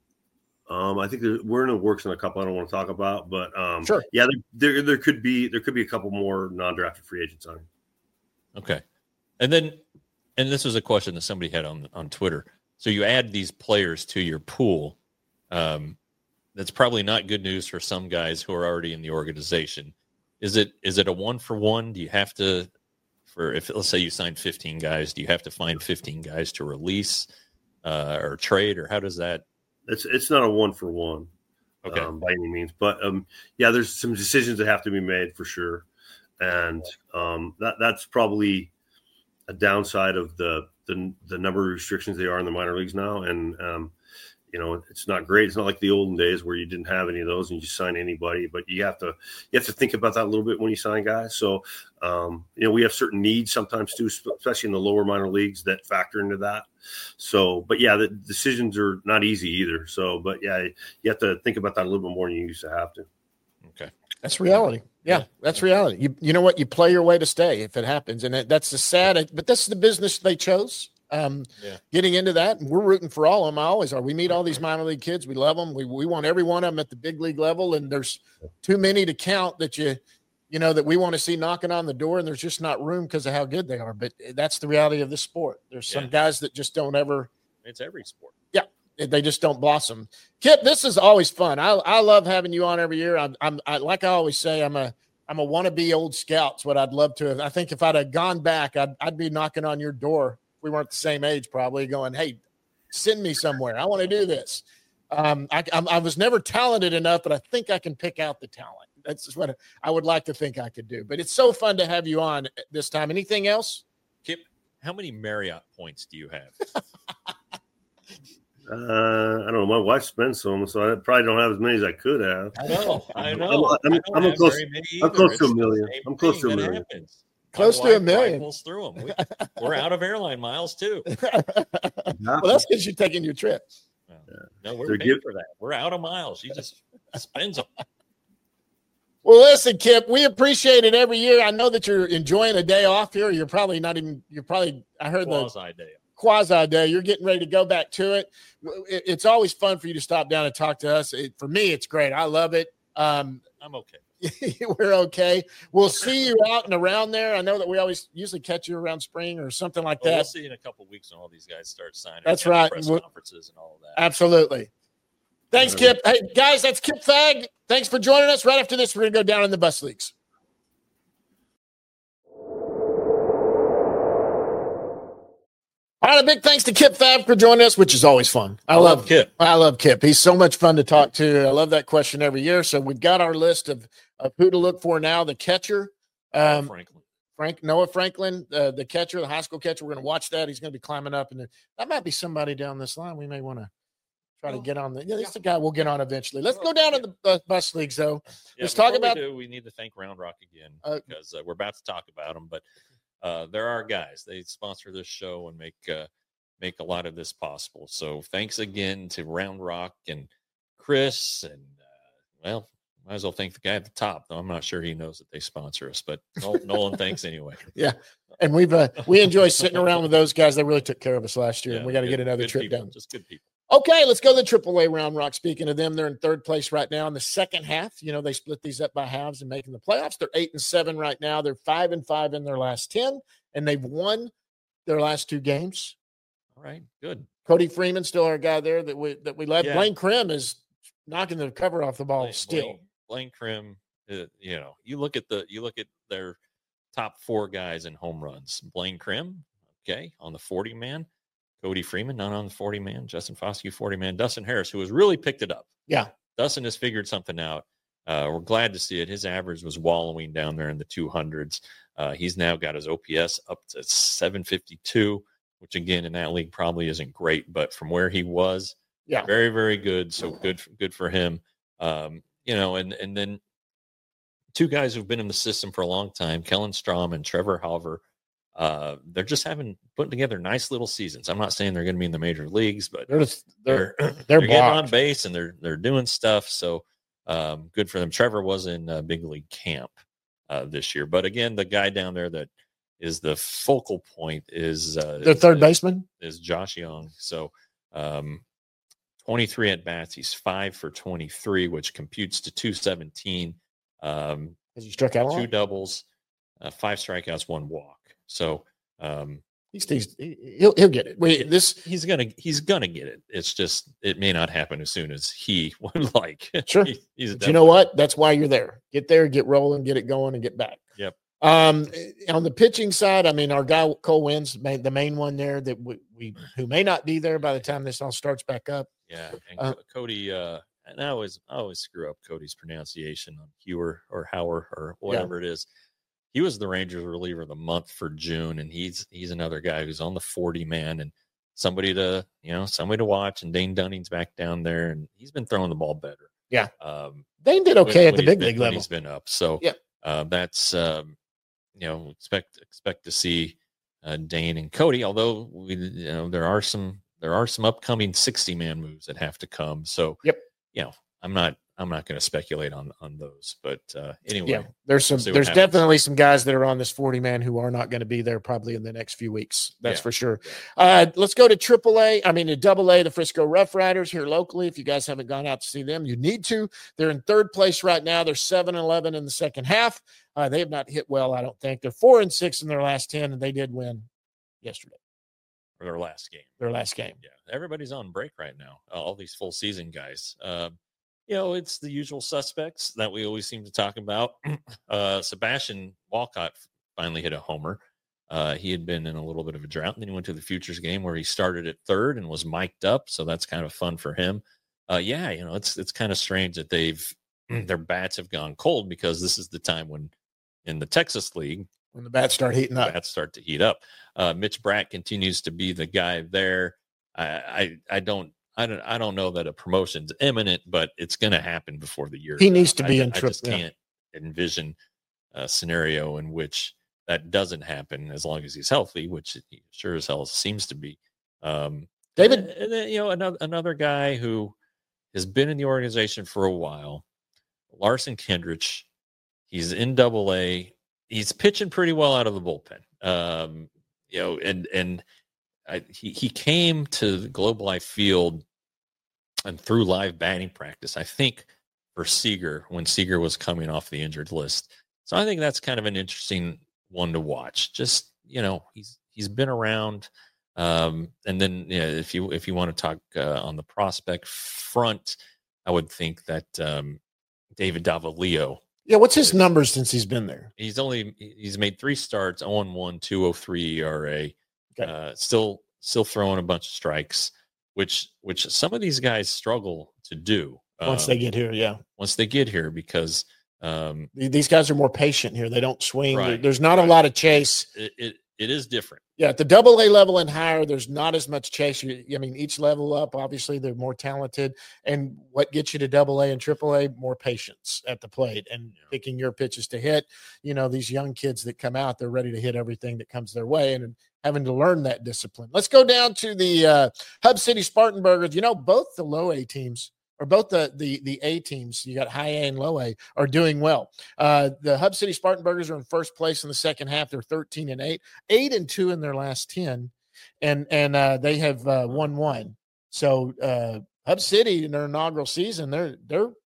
I think we're in the works on a couple I don't want to talk about, but sure. Yeah, there could be a couple more non-drafted free agents on. Okay. And this was a question that somebody had on Twitter. So you add these players to your pool. That's probably not good news for some guys who are already in the organization. Is it a 1-for-1? Do you have to, if let's say you signed 15 guys, do you have to find 15 guys to release or trade, or how does that? It's not a 1-for-1, okay, by any means. But yeah, there's some decisions that have to be made for sure, and that's probably a downside of the number of restrictions they are in the minor leagues now. And it's not great. It's not like the olden days where you didn't have any of those and you just sign anybody. But you have to think about that a little bit when you sign guys. So we have certain needs sometimes too, especially in the lower minor leagues, that factor into that. So, but yeah, the decisions are not easy either. So, but yeah, you have to think about that a little bit more than you used to have to. Okay. That's reality. Yeah, that's reality. You know what? You play your way to stay if it happens. And that's the sad, but that's the business they chose. Getting into that, and we're rooting for all of them. I always are. We meet all these minor league kids. We love them. We want every one of them at the big league level. And there's too many to count that that we want to see knocking on the door, and there's just not room because of how good they are. But that's the reality of the sport. There's some guys that just don't ever. It's every sport. Yeah. They just don't blossom. Kip, this is always fun. I love having you on every year. I'm like I always say, I'm a wannabe old scout's what I'd love to. I think if I'd have gone back, I'd be knocking on your door. We weren't the same age, probably going, hey, send me somewhere. I want to do this. I was never talented enough, but I think I can pick out the talent. That's what I would like to think I could do. But it's so fun to have you on this time. Anything else? Kip, how many Marriott points do you have? I don't know. My wife spends some, so I probably don't have as many as I could have. I know. I'm close to a million. I'm close to a million. Close to a million. Pulls through them. We're out of airline miles too. Well, that's because you're taking your trips. No, we're paying for that. We're out of miles. She just spends them. Well, listen, Kip, we appreciate it every year. I know that you're enjoying a day off here. You're probably not even. I heard quasi day. You're getting ready to go back to it. It's always fun for you to stop down and talk to us. For me, it's great. I love it. I'm okay. We're okay. We'll see you out and around there. I know that we usually catch you around spring or something like that. We'll see you in a couple of weeks when all these guys start signing. That's right. Press conferences and all of that. Absolutely. Thanks, Kip. Hey, guys, that's Kip Fagg. Thanks for joining us. Right after this, we're going to go down in the bus leagues. All right, a big thanks to Kip Fagg for joining us, which is always fun. I love Kip. I love Kip. He's so much fun to talk to. I love that question every year. So we've got our list of who to look for now. The catcher, Noah Franklin, the catcher, the high school catcher. We're going to watch that. He's going to be climbing up, and that might be somebody down this line. We may want to try to get on. That's the guy we'll get on eventually. Let's go down to the bus leagues, though. Let's talk about. We need to thank Round Rock again because we're about to talk about them, but. There are guys. They sponsor this show and make a lot of this possible. So thanks again to Round Rock and Chris. And, might as well thank the guy at the top, though I'm not sure he knows that they sponsor us. But Nolan, thanks anyway. Yeah. And we enjoy sitting around with those guys. They really took care of us last year. And we got to get another trip people, down. Just good people. Okay, let's go to the AAA Round Rock. Speaking of them, they're in third place right now in the second half. You know, they split these up by halves and making the playoffs. They're 8-7 right now. They're 5-5 in their last 10, and they've won their last 2 games. All right, good. Cody Freeman, still our guy there that we led. Yeah. Blaine Krim is knocking the cover off the ball still. Blaine Krim, you know, you look at their top 4 guys in home runs. Blaine Krim, okay, on the 40-man. Cody Freeman, not on the 40-man. Justin Foscue, 40-man. Dustin Harris, who has really picked it up. Yeah. Dustin has figured something out. We're glad to see it. His average was wallowing down there in the 200s. He's now got his OPS up to 752, which, again, in that league probably isn't great. But from where he was, very, very good. So good for him. You know, and then 2 guys who've been in the system for a long time, Kellen Strom and Trevor Halver. They're just putting together nice little seasons. I'm not saying they're going to be in the major leagues, but they're getting on base and they're doing stuff. So good for them. Trevor was in big league camp this year, but again, the guy down there that is the focal point is their third baseman is Josh Young. So 23 at bats. He's 5 for 23, which computes to 217. Has he struck out 2 doubles, 5 strikeouts, 1 walk. So he'll get it. He's gonna get it. It's just it may not happen as soon as he would like. Sure. But you know what? That's why you're there. Get there, get rolling, get it going, and get back. Yep. On the pitching side, I mean, our guy Cole Wins, the main one there that we who may not be there by the time this all starts back up. Yeah, and Cody. And I always screw up Cody's pronunciation on Hewer or Hauer or whatever it is. He was the Rangers reliever of the month for June, and he's another guy who's on the 40-man and somebody to watch. And Dane Dunning's back down there, and he's been throwing the ball better. Yeah, Dane did okay at the big league level. He's been up, so that's expect to see Dane and Cody. Although there are some upcoming 60-man moves that have to come. So I'm not going to speculate on those, but anyway, there's definitely some guys that are on this 40-man who are not going to be there probably in the next few weeks. That's for sure. Let's go to AA, the Frisco Rough Riders here locally. If you guys haven't gone out to see them, you need to. They're in third place right now. They're 7-11 in the second half. They have not hit well, I don't think. They're 4-6 in their last 10, and they did win yesterday. Their last game. Yeah. Everybody's on break right now. All these full season guys. It's the usual suspects that we always seem to talk about. Sebastian Walcott finally hit a homer. He had been in a little bit of a drought, and then he went to the Futures game where he started at third and was mic'd up. So that's kind of fun for him. It's kind of strange that their bats have gone cold, because this is the time when in the Texas League, when the bats start heating up, to heat up. Mitch Bratt continues to be the guy there. I don't know that a promotion's imminent, but it's going to happen before the year. He needs to be in I just can't envision a scenario in which that doesn't happen as long as he's healthy, which he sure as hell seems to be. David, and then, another guy who has been in the organization for a while, Larson Kendrich. He's in AA. He's pitching pretty well out of the bullpen. He came to the Globe Life Field and through live batting practice, I think, for Seager when Seager was coming off the injured list. So I think that's kind of an interesting one to watch. Just, he's been around. And then if you want to talk on the prospect front, I would think that David Davalillo. Yeah, what's his numbers since he's been there? He's made 3 starts, 0-1, 2.03 ERA. Okay. Still throwing a bunch of strikes, which some of these guys struggle to do once they get here. Yeah, once they get here, because these guys are more patient here. They don't swing. Right, There's not a lot of chase. It is different. Yeah, at the AA level and higher, there's not as much chase. Each level up, obviously, they're more talented. And what gets you to AA and AAA? More patience at the plate and picking your pitches to hit. These young kids that come out, they're ready to hit everything that comes their way and having to learn that discipline. Let's go down to the Hub City Spartanburgers. Both the low A teams, or both the A teams, you got high A and low A, are doing well. The Hub City Spartanburgers are in first place in the second half. They're 13-8, 8-2 in their last 10, and they have won 1. So Hub City in their inaugural season, they're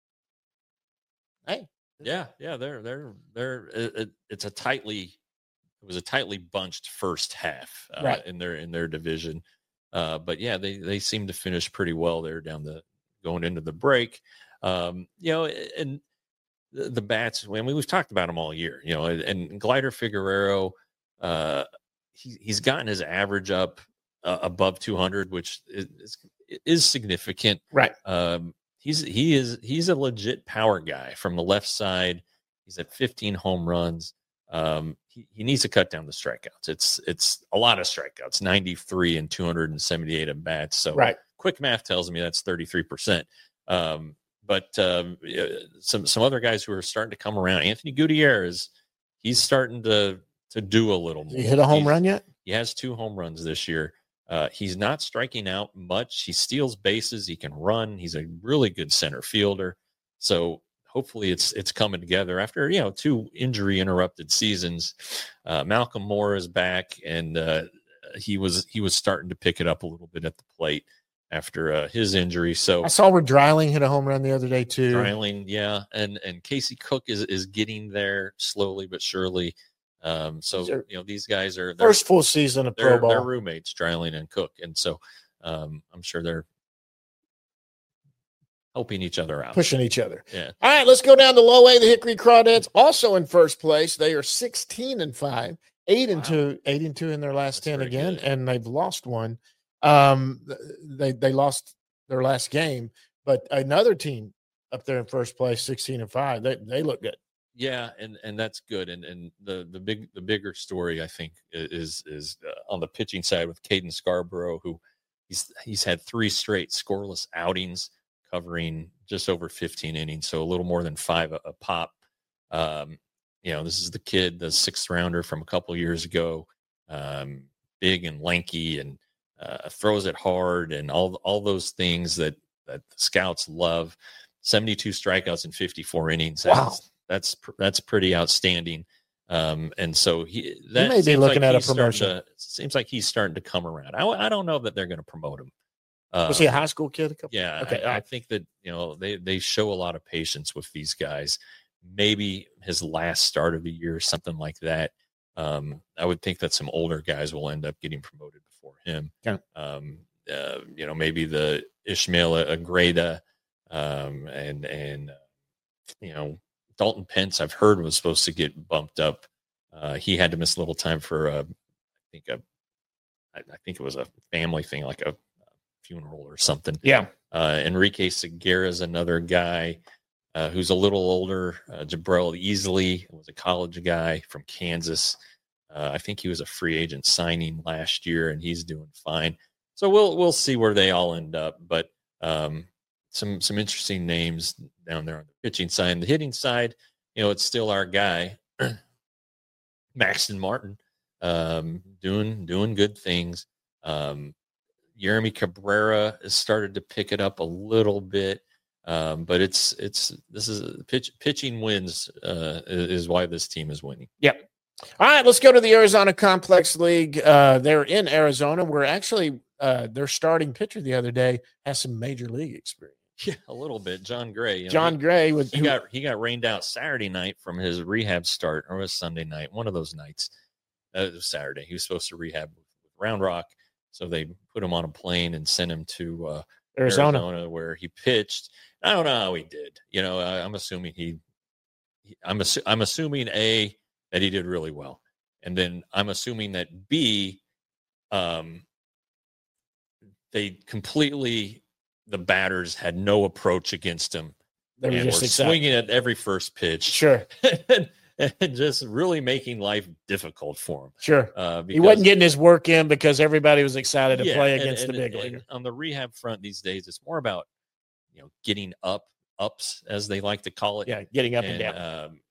hey. Yeah, it was a tightly bunched first half Right. in their division. But yeah, they seem to finish pretty well there going into the break. And the bats, I mean, we've talked about them all year, and Glider Figueroa, he's gotten his average up above 200, which is significant. Right. He's a legit power guy from the left side. He's at 15 home runs. He needs to cut down the strikeouts. It's a lot of strikeouts, 93 and 278 at bats. So right. Quick math tells me that's 33%. But some other guys who are starting to come around. Anthony Gutierrez, he's starting to do a little more. He hit a home run yet? He has 2 home runs this year. He's not striking out much. He steals bases. He can run. He's a really good center fielder. So hopefully it's coming together after 2 injury interrupted seasons. Malcolm Moore is back, and he was starting to pick it up a little bit at the plate after his injury. So I saw where Dreiling hit a home run the other day too. Dreiling, yeah, and Casey Cook is getting there slowly but surely. So these guys are first full season of pro ball. They're roommates, Dreiling and Cook, and so I'm sure they're helping each other out, pushing each other. Yeah. All right, let's go down to low A. The Hickory Crawdads also in first place. They are 16-5, 8-2 in their last 10 again, good. And they've lost one. They lost their last game, but another team up there in first place, 16-5. They look good. Yeah, and that's good. And the bigger story, I think, is on the pitching side with Caden Scarborough, who he's had 3 straight scoreless outings, covering just over 15 innings, so a little more than 5 a pop. This is the kid, the 6th rounder from a couple years ago, big and lanky, and throws it hard, and all those things that the scouts love. 72 strikeouts in 54 innings. Wow. That's pretty outstanding. And so he may be looking at a promotion. Seems like he's starting to come around. I don't know that they're going to promote him. Was he a high school kid? Yeah. Okay. I think that, they show a lot of patience with these guys. Maybe his last start of the year, something like that. I would think that some older guys will end up getting promoted before him. Yeah. Maybe the Ishmael Agreda, and Dalton Pence, I've heard, was supposed to get bumped up. He had to miss a little time for I think it was a family thing, like a funeral or something. Yeah. Enrique Segura is another guy who's a little older. Jabril Easley was a college guy from Kansas. I think he was a free agent signing last year, and he's doing fine. So we'll see where they all end up. But some interesting names down there on the pitching side. And the hitting side, it's still our guy, Maxton Martin, doing good things. Jeremy Cabrera has started to pick it up a little bit, but this is pitching wins is why this team is winning. Yep. All right, let's go to the Arizona Complex League. They're in Arizona. We're actually their starting pitcher the other day has some major league experience. Yeah, a little bit. John Gray. John Gray he got rained out Saturday night from his rehab start, or it was Sunday night, one of those nights. It was Saturday. He was supposed to rehab with Round Rock. So they put him on a plane and sent him to Arizona, where he pitched. I don't know how he did. I'm assuming I'm assuming A, that he did really well, and then I'm assuming that B, the batters had no approach against him. They were just swinging at every first pitch. Sure. And just really making life difficult for him. Sure. He wasn't getting his work in because everybody was excited to play against the big league. On the rehab front these days, it's more about, getting ups, as they like to call it. Yeah, getting up and down.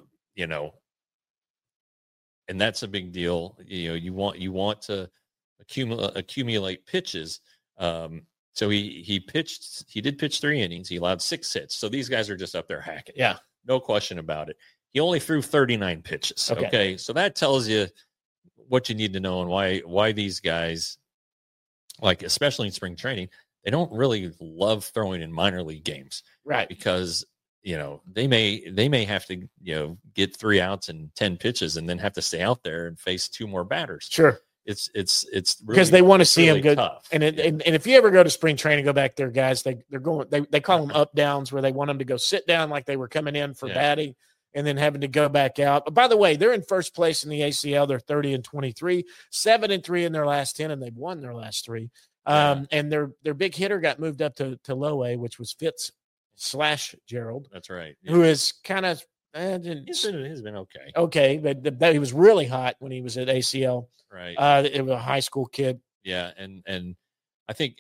And that's a big deal. You want to accumulate pitches. So he did pitch 3 innings. He allowed 6 hits. So these guys are just up there hacking. Yeah. No question about it. He only threw 39 pitches. Okay. So that tells you what you need to know and why these guys, like especially in spring training, they don't really love throwing in minor league games, Right. because they may have to get 3 outs and 10 pitches and then have to stay out there and face 2 more batters. Sure. It's really, because they want to see really him good. tough. And if you ever go to spring training, go back there, guys, they call them up downs, where they want them to go sit down like they were coming in for batting and then having to go back out. But by the way, they're in first place in the ACL. They're 30-23, 7-3 in their last 10, and they've won their last 3. And their big hitter got moved up to low A, which was Fitz/Gerald. That's right. Who is kind of he's been okay. Okay, but he was really hot when he was at ACL. Right. It was a high school kid. Yeah, and I think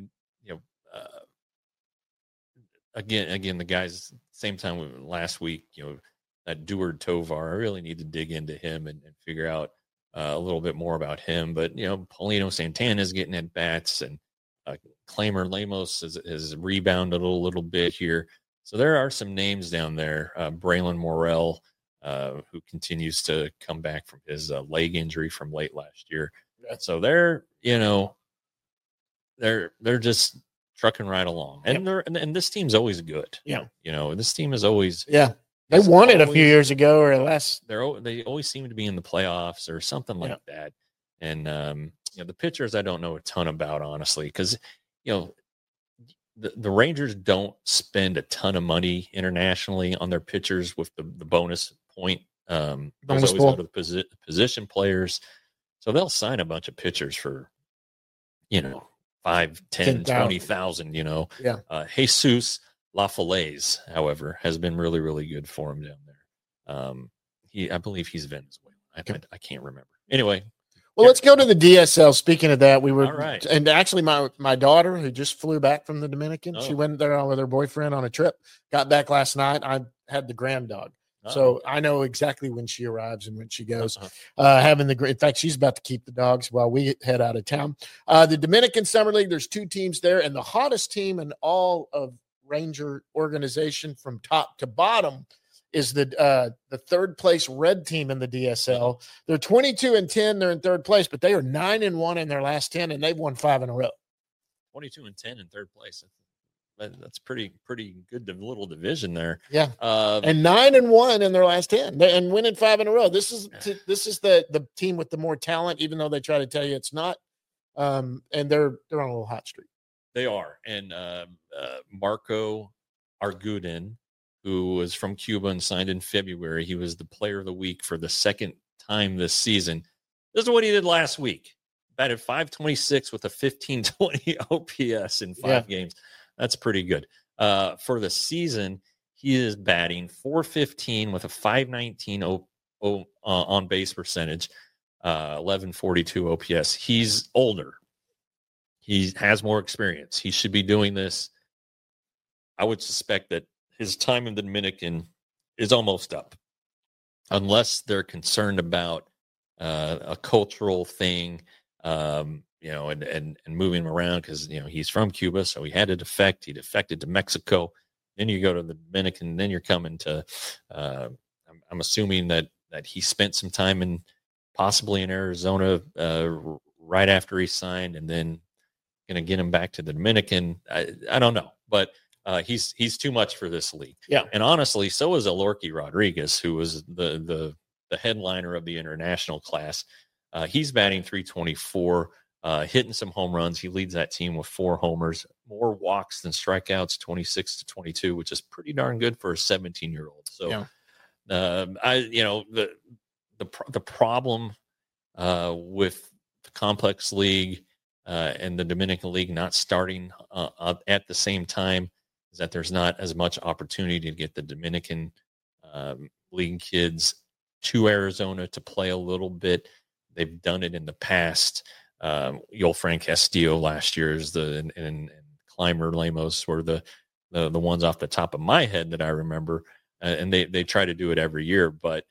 again the guys, same time last week, that Duard Tovar, I really need to dig into him and figure out a little bit more about him. But Paulino Santana is getting at bats, and Claimer Lemos has rebounded a little bit here. So there are some names down there. Braylon Morrell, who continues to come back from his leg injury from late last year. So they're just trucking right along, and and this team's always good. Yeah, this team is always They won it a few years ago or less. They always seem to be in the playoffs or something like that. And the pitchers I don't know a ton about, honestly, because the Rangers don't spend a ton of money internationally on their pitchers with the bonus point. Bonus always go to the position players, so they'll sign a bunch of pitchers for 5, 10, 20,000. Jesus LaFalaise, however, has been really, really good for him down there. I believe he's Venezuelan. I can't remember. Anyway. Well, let's go to the DSL. Speaking of that, we were, all right. And actually my daughter, who just flew back from the Dominican, she went there with her boyfriend on a trip, got back last night. I had the grand dog. So I know exactly when she arrives and when she goes. In fact, she's about to keep the dogs while we head out of town. The Dominican Summer League, there's 2 teams there, and the hottest team in all of Ranger organization from top to bottom is the third place red team in the DSL. They're 22-10. They're in third place, but they are 9-1 in their last 10, and they've won 5 in a row. 22-10 in third place. That's pretty good little division there. Yeah. And 9-1 in their last 10 and winning 5 in a row. This is the team with the more talent, even though they try to tell you it's not. And they're on a little hot streak. They are. And Marco Arguden, who was from Cuba and signed in February, he was the player of the week for the second time this season. This is what he did last week. Batted .526 with a 1520 OPS in 5 games. That's pretty good. For the season, he is batting .415 with a .519 on base percentage, 1142 OPS. He's older. He has more experience. He should be doing this. I would suspect that his time in the Dominican is almost up, unless they're concerned about a cultural thing, and moving him around, because he's from Cuba, so he had to defect. He defected to Mexico. Then you go to the Dominican. Then you're coming to. I'm assuming that he spent some time possibly in Arizona right after he signed, and then going to get him back to the Dominican. I don't know, but he's too much for this league. Yeah, and honestly, so is Alorki Rodriguez, who was the headliner of the international class. He's batting .324, hitting some home runs. He leads that team with 4 homers, more walks than strikeouts, 26-22, which is pretty darn good for a 17-year-old. So, the problem with the complex league and the Dominican League not starting at the same time is that there's not as much opportunity to get the Dominican League kids to Arizona to play a little bit. They've done it in the past. Yolfran Castillo last year is and Clymer Lemos were the ones off the top of my head that I remember, and they try to do it every year, but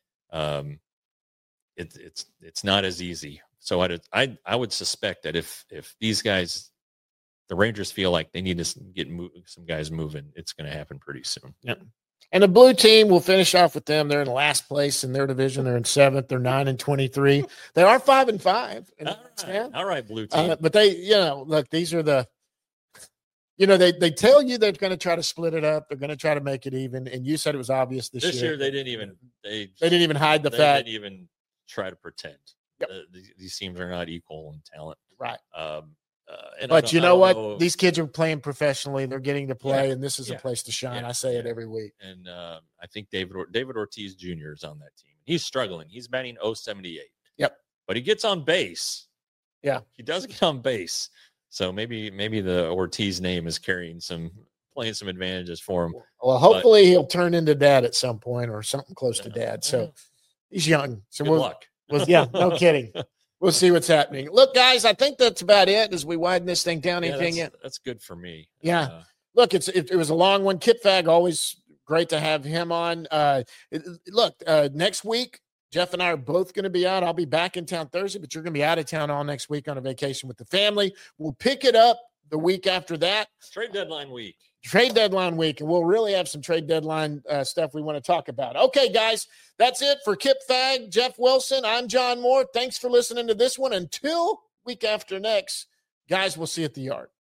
it's not as easy. So I would suspect that if these guys, the Rangers, feel like they need to get some guys moving, it's going to happen pretty soon. Yeah. And the blue team, will finish off with them. They're in last place in their division. They're in 7th. They're 9-23. They are 5-5. All right, blue team. But they, look, these are you know, they tell you they're going to try to split it up. They're going to try to make it even. And you said it was obvious this year. This year they didn't even hide the they fact. They didn't even try to pretend. Yep. These teams are not equal in talent. Right. But you know what? These kids are playing professionally. They're getting to play, and this is a Yeah. place to shine. Yeah. I say it every week. And I think David Ortiz Jr. is on that team. He's struggling. He's batting .078. Yep. But he gets on base. Yeah. He does get on base. So maybe the Ortiz name is playing some advantages for him. Well, hopefully he'll turn into dad at some point or something close to dad. So he's young. So Good luck. No kidding. We'll see what's happening. Look, guys, I think that's about it as we widen this thing down. Anything? That's good for me. Yeah. Look, it was a long one. Kip Fagg, always great to have him on. Next week, Jeff and I are both going to be out. I'll be back in town Thursday, but you're going to be out of town all next week on a vacation with the family. We'll pick it up the week after that. Trade deadline week. And we'll really have some trade deadline stuff we want to talk about. Okay, guys, that's it for Kip Fagg, Jeff Wilson. I'm John Moore. Thanks for listening to this one. Until week after next, guys, we'll see you at the yard.